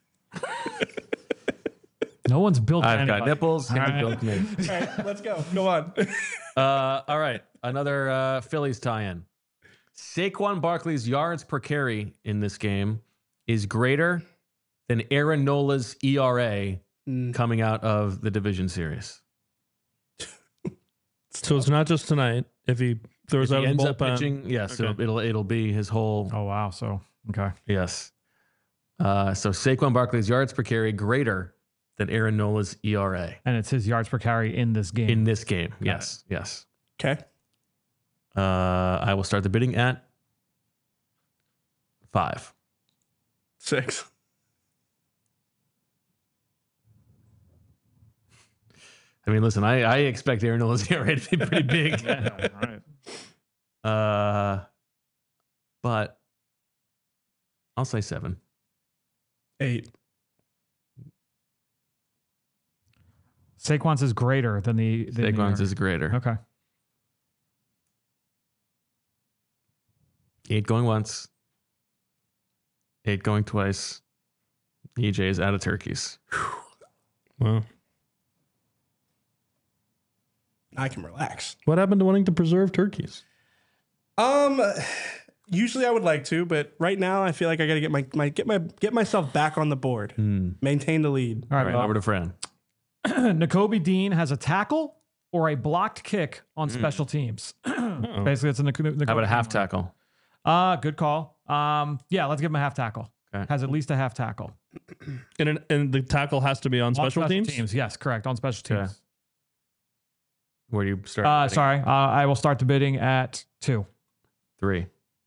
No one's built. I've got anybody. nipples. Hit the right. bill committee. All right, let's go. Go on. Uh, all right. Another uh, Phillies tie-in. Saquon Barkley's yards per carry in this game is greater than Aaron Nola's E R A Mm. coming out of the division series. So it's not just tonight. If he throws If out he of the ends up bullpen, pitching, yes, Okay. it'll, it'll it'll be his whole Oh wow. So okay. yes. Uh, so Saquon Barkley's yards per carry greater than Aaron Nola's E R A And it's his yards per carry in this game. in this game. Yes, yes. Okay. Uh, I will start the bidding at five. Six. I mean, listen, I, I expect Aaron Nola's E R A to be pretty big. Yeah, right. Uh, but I'll say seven. Eight. Saquon's is greater than the. than the Saquon's E R A. is greater. Okay. Eight going once. Eight going twice. E J is out of turkeys. Wow. I can relax. What happened to wanting to preserve turkeys? Um, usually I would like to, but right now I feel like I got to get my, my get my get myself back on the board. Hmm. Maintain the lead. All All right. right, over to Fran. N'Kobe Dean has a tackle or a blocked kick on special teams. Uh-oh. Basically, it's a N'Kobe. How about a half Dean. tackle? Uh, good call. Um, yeah, let's give him a half tackle. Okay. Has at least a half tackle. And, an, and the tackle has to be on On special, teams? Yes, correct. On special Okay. teams. Where do you start? Uh, bidding? sorry. Uh, I will start the bidding at two. Three.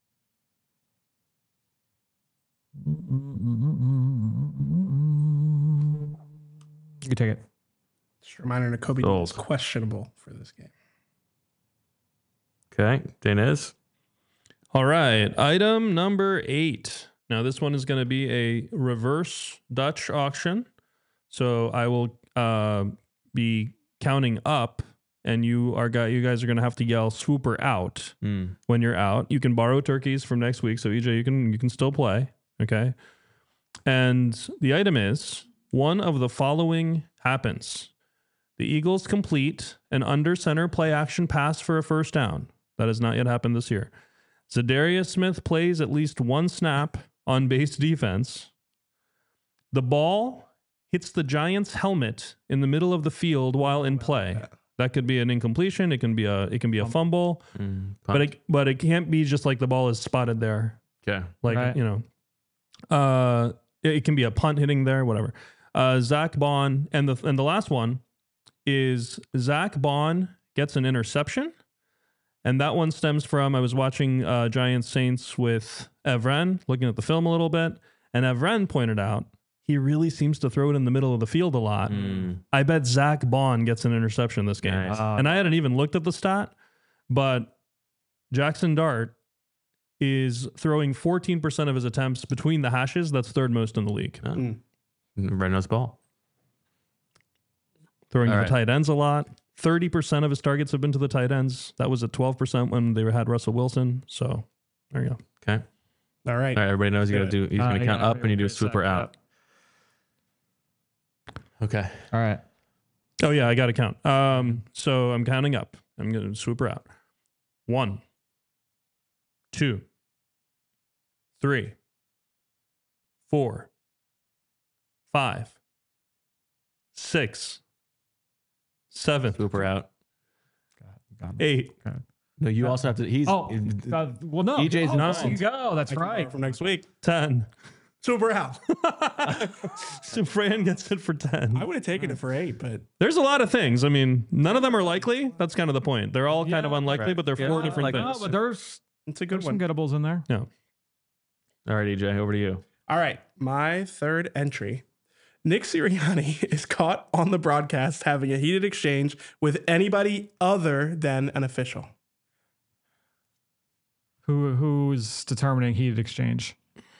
You can take it. Just a reminder, Kobe Sold. is questionable for this game. Okay. Dana is. All right. Item number eight. Now, this one is going to be a reverse Dutch auction. So I will uh, be counting up, and you are gu- you guys are going to have to yell "swooper out" Mm. when you're out. You can borrow turkeys from next week, so E J, you can you can still play. Okay. And the item is one of the following happens: the Eagles complete an under center play action pass for a first down. That has not yet happened this year. Zadarius Smith plays at least one snap on base defense. The ball hits the Giants' helmet in the middle of the field while in play. That could be an incompletion. It can be a it can be a fumble, Mm. but it but it can't be just like the ball is spotted there. Okay. Like Right. you know, uh, it, it can be a punt hitting there, whatever. Uh, Zach Bond and the and the last one is Zach Bond gets an interception. And that one stems from, I was watching uh, Giants Saints with Evren, looking at the film a little bit, and Evren pointed out he really seems to throw it in the middle of the field a lot. Mm. I bet Zach Bond gets an interception this game. Nice. Uh, And I hadn't even looked at the stat, but Jackson Dart is throwing fourteen percent of his attempts between the hashes. That's third most in the league. Oh. Mm. Red nose ball. Throwing All to right. the tight ends a lot. thirty percent of his targets have been to the tight ends. That was at twelve percent when they had Russell Wilson. So there you go. Okay. All right. All right. Everybody knows you got to do. He's Uh, going to count yeah, up, and you do a exactly. swooper out. Okay. All right. Oh yeah, I got to count. Um, so I'm counting up. I'm going to swoop her out. One, two, three, four, five, six, seven, Swooper out. eight. No, you also have to. He's. Oh, uh, well, no. E J's oh, not. there you go. That's I can borrow right. From next week. ten. Super out. So Fran gets it for ten. I would have taken it for eight, but There's a lot of things. I mean, none of them are likely. That's kind of the point. They're all kind of Yeah. unlikely, Right. but they're Yeah, four I different like No, things. but there's, it's a good there's one. some gettables in there. No. All right, E J, over to you. All right. My third entry. Nick Sirianni is caught on the broadcast having a heated exchange with anybody other than an official. Who who's determining heated exchange?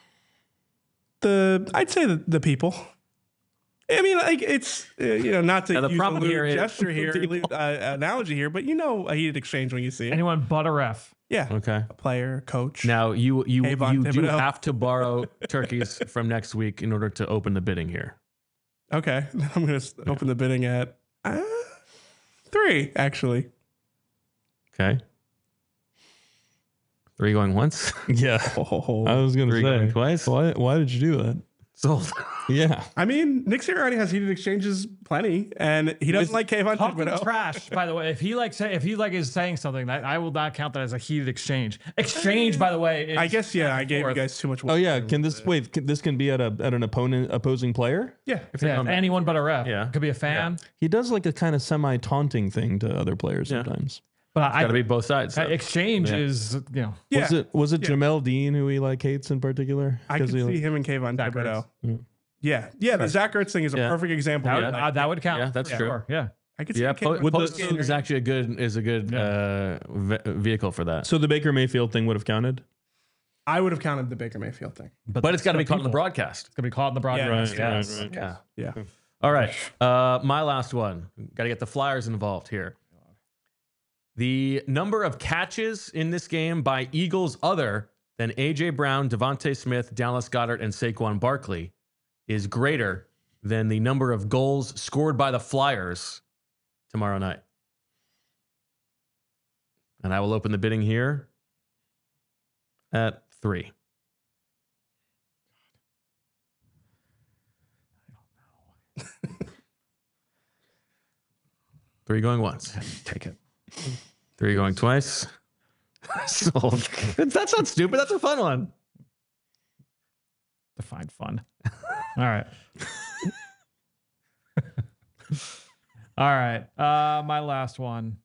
The I'd say the, the people. I mean, like it's uh, you know not to Now, the use problem a lewd here is- gesture here, uh, analogy here, but you know a heated exchange when you see it. Anyone but a ref. Yeah, Okay. a player, coach. Now you you Avon you do Thibodeau. have to borrow turkeys from next week in order to open the bidding here. Okay, I'm gonna s open the bidding at uh, three actually. Okay. Three going once. Yeah. Oh, I was going to Three going say. twice. Why, why did you do that? Sold. Yeah. I mean, Nick Sirianni has heated exchanges plenty, and he doesn't like Kayvon Talking Thibodeau. trash, by the way. If he like say if he like is saying something, that I will not count that as a heated exchange. Exchange, by the way. Is I guess yeah, back I and gave you forth. guys too much. Oh yeah. Can this wait? Can, this can be at a at an opponent opposing player. Yeah, Yeah, come back. anyone but a ref. Yeah. Could be a fan. He does like a kind of semi taunting thing to other players Yeah. sometimes. But I, Got to be both sides. uh, though. exchange Yeah. is you know yeah. Was it was it Yeah. Jamel Dean who he like hates in particular? I could 'Cause he, see like- him and Kayvon Zach Thibodeau. Yeah. Yeah, yeah. The Zach Ertz thing is a Yeah. perfect example. that of would, that. uh, that would count. Yeah, that's for true. sure. Yeah. I could see Yeah, Kayvon po- Would the- post game is actually a good is a good uh, ve- vehicle for that. So the Baker Mayfield thing would have counted. I would have counted the Baker Mayfield thing. But it's got to be caught in the broadcast. It's gonna be caught in the broadcast. Right, yes. right, right. Yeah. Yeah. All right. Uh, my last one. Got to get the Flyers involved here. The number of catches in this game by Eagles other than A J Brown, Devontae Smith, Dallas Goedert, and Saquon Barkley is greater than the number of goals scored by the Flyers tomorrow night. And I will open the bidding here at three. Three going once. Take it. Three going twice. Sold. That's not stupid. That's a fun one. Define fun. All right. All right. Uh, my last one.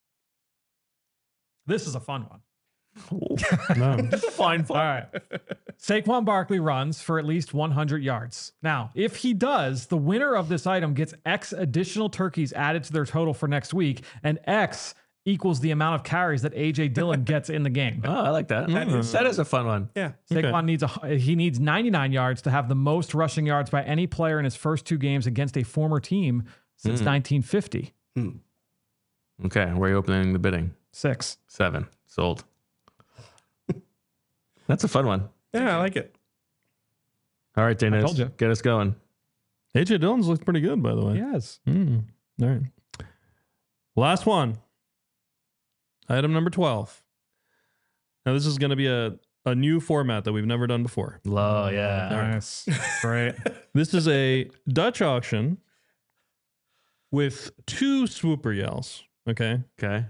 This is a fun one. No. It's a fine All right. Saquon Barkley runs for at least one hundred yards. Now, if he does, the winner of this item gets X additional turkeys added to their total for next week, and X equals the amount of carries that A J Dillon gets in the game. Oh, I like that. That is, that is a fun one. Yeah. Saquon Okay. needs a he needs ninety-nine yards to have the most rushing yards by any player in his first two games against a former team since nineteen fifty. Okay, where are you opening the bidding? Six. Seven. Sold. That's a fun one. Yeah, I like it. All right, Dana, told you. get us going. A J Dillon's looked pretty good, by the way. Yes. Mm. All right. Last one. Item number twelve. Now, this is going to be a, a new format that we've never done before. Oh, yeah. Nice. Great. This is a Dutch auction with two swooper yells. Okay. Okay.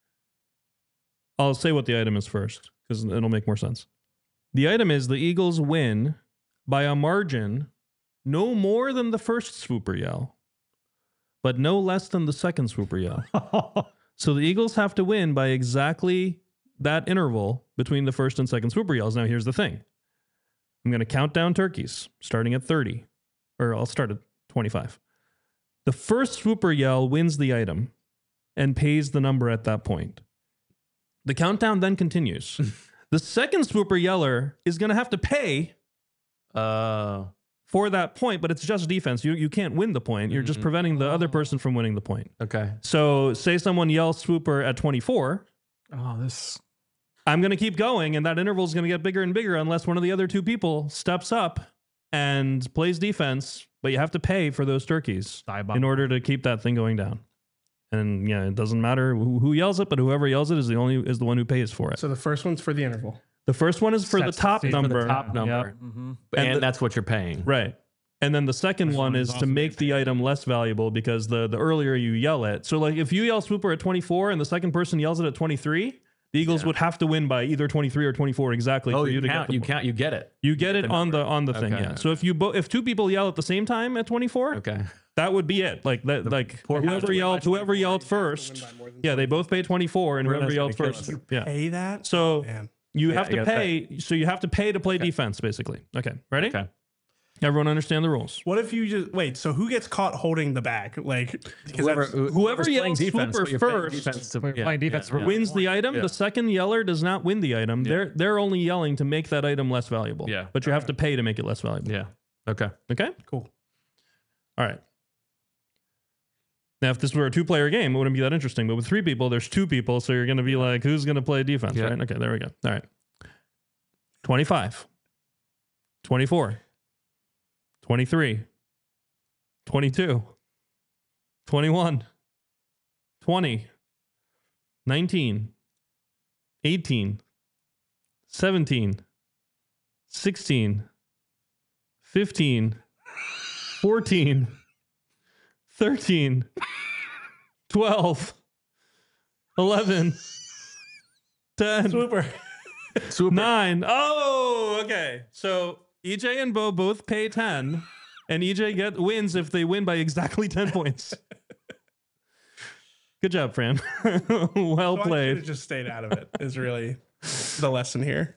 I'll say what the item is first because it'll make more sense. The item is the Eagles win by a margin no more than the first swooper yell, but no less than the second swooper yell. So the Eagles have to win by exactly that interval between the first and second swooper yells. Now, here's the thing. I'm going to count down turkeys starting at thirty, or I'll start at twenty-five. The first swooper yell wins the item and pays the number at that point. The countdown then continues. The second swooper yeller is going to have to pay Uh, for that point, but it's just defense. You you can't win the point. You're just preventing the other person from winning the point. okay. So say someone yells swooper at twenty-four. Oh, this. I'm going to keep going, and that interval is going to get bigger and bigger unless one of the other two people steps up and plays defense, but you have to pay for those turkeys in order to keep that thing going down. And yeah, it doesn't matter who, who yells it, but whoever yells it is the only is the one who pays for it. So the first one's for the interval. The first one is for the Sets the top scene for the number. Top number. Yep. Mhm. And, And the- that's what you're paying. Right. And then the second First one one is is to also make the item less valuable because the, the earlier you yell it. So like if you yell swooper at twenty-four and the second person yells it at twenty-three, the Eagles Yeah. would have to win by either twenty-three or twenty-four exactly Oh, for you, you to count. get the You point. count. You get it. You get it the on the number. on the thing, Okay. yeah. So if you bo- if two people yell at the same time at twenty-four, Okay. that would be it. Like that, like poor whoever person. yelled, whoever yelled first, yeah, they both pay twenty-four, and whoever Brenna's yelled gonna kill first, us. yeah. Pay that? So Man. you Yeah, have you to gotta pay. So you have to pay to play defense, basically. Okay, ready? Okay. Everyone understand the rules. What if you just wait? So who gets caught holding the bag? Like because Whoever, that's- who- whoever whoever's playing yells defense, swooper but you're playing first- defense to- We're yeah, playing defense yeah, for yeah. Wins the item. Yeah. The second yeller does not win the item. They're they're only yelling to make that item less valuable. Yeah. But you have to pay to make it less valuable. Yeah. Okay. Okay. cool. All right. Now, if this were a two-player game, it wouldn't be that interesting. But with three people, there's two people, so you're going to be like, who's going to play defense, Yeah. right? Okay, there we go. All right. twenty-five. twenty-four. twenty-three. twenty-two. twenty-one. twenty. nineteen. eighteen. seventeen. sixteen. fifteen. fourteen. thirteen. twelve. eleven. ten. Swooper. Super. Nine. Oh, okay. So E J and Bo both pay ten, and E J get wins if they win by exactly ten points. Good job, Fran. Well So I played. should've just stayed out of it. Is really the lesson here.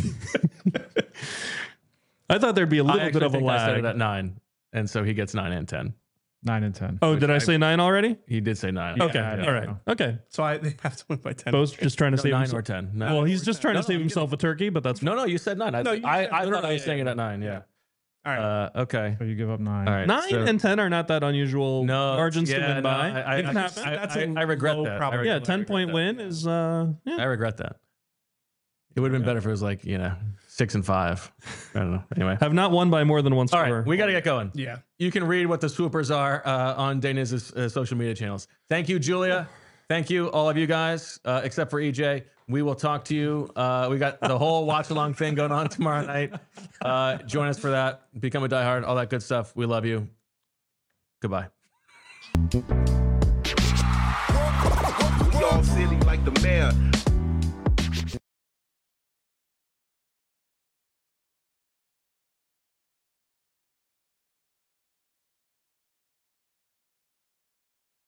I thought there'd be a I little actually bit of a think I said lag. it at nine, and so he gets nine and ten. Nine and ten. Oh, did I say nine already? He did say nine. Okay. I All right. know. Okay. So I they have to win by ten. Bo's just trying to No, save nine himself. or ten. No. Well, he's just trying No, to save no, himself a turkey, but that's No, no, you said nine. I, No, you I, said- I no, thought no, I was yeah, saying yeah. it at nine. Yeah. All right. Uh, okay. So you give up nine. All right. nine so- and ten are not that unusual No margins to yeah, win no, by. I, I, it can I, happen. I, That's I, a I regret low that. I probability. yeah, regret, ten I point regret win that. is uh yeah. I regret that. It would have been better if it was like, you know, six and five. I don't know. Anyway. Have not won by more than one All score. right. We got to get going. Yeah. You can read what the swoopers are uh, on Dana's uh, social media channels. Thank you, Julia. Thank you, all of you guys, uh, except for E J. We will talk to you. Uh, we got the whole watch along thing going on tomorrow night. Uh, join us for that. Become a diehard, all that good stuff. We love you. Goodbye. We all silly like the mayor.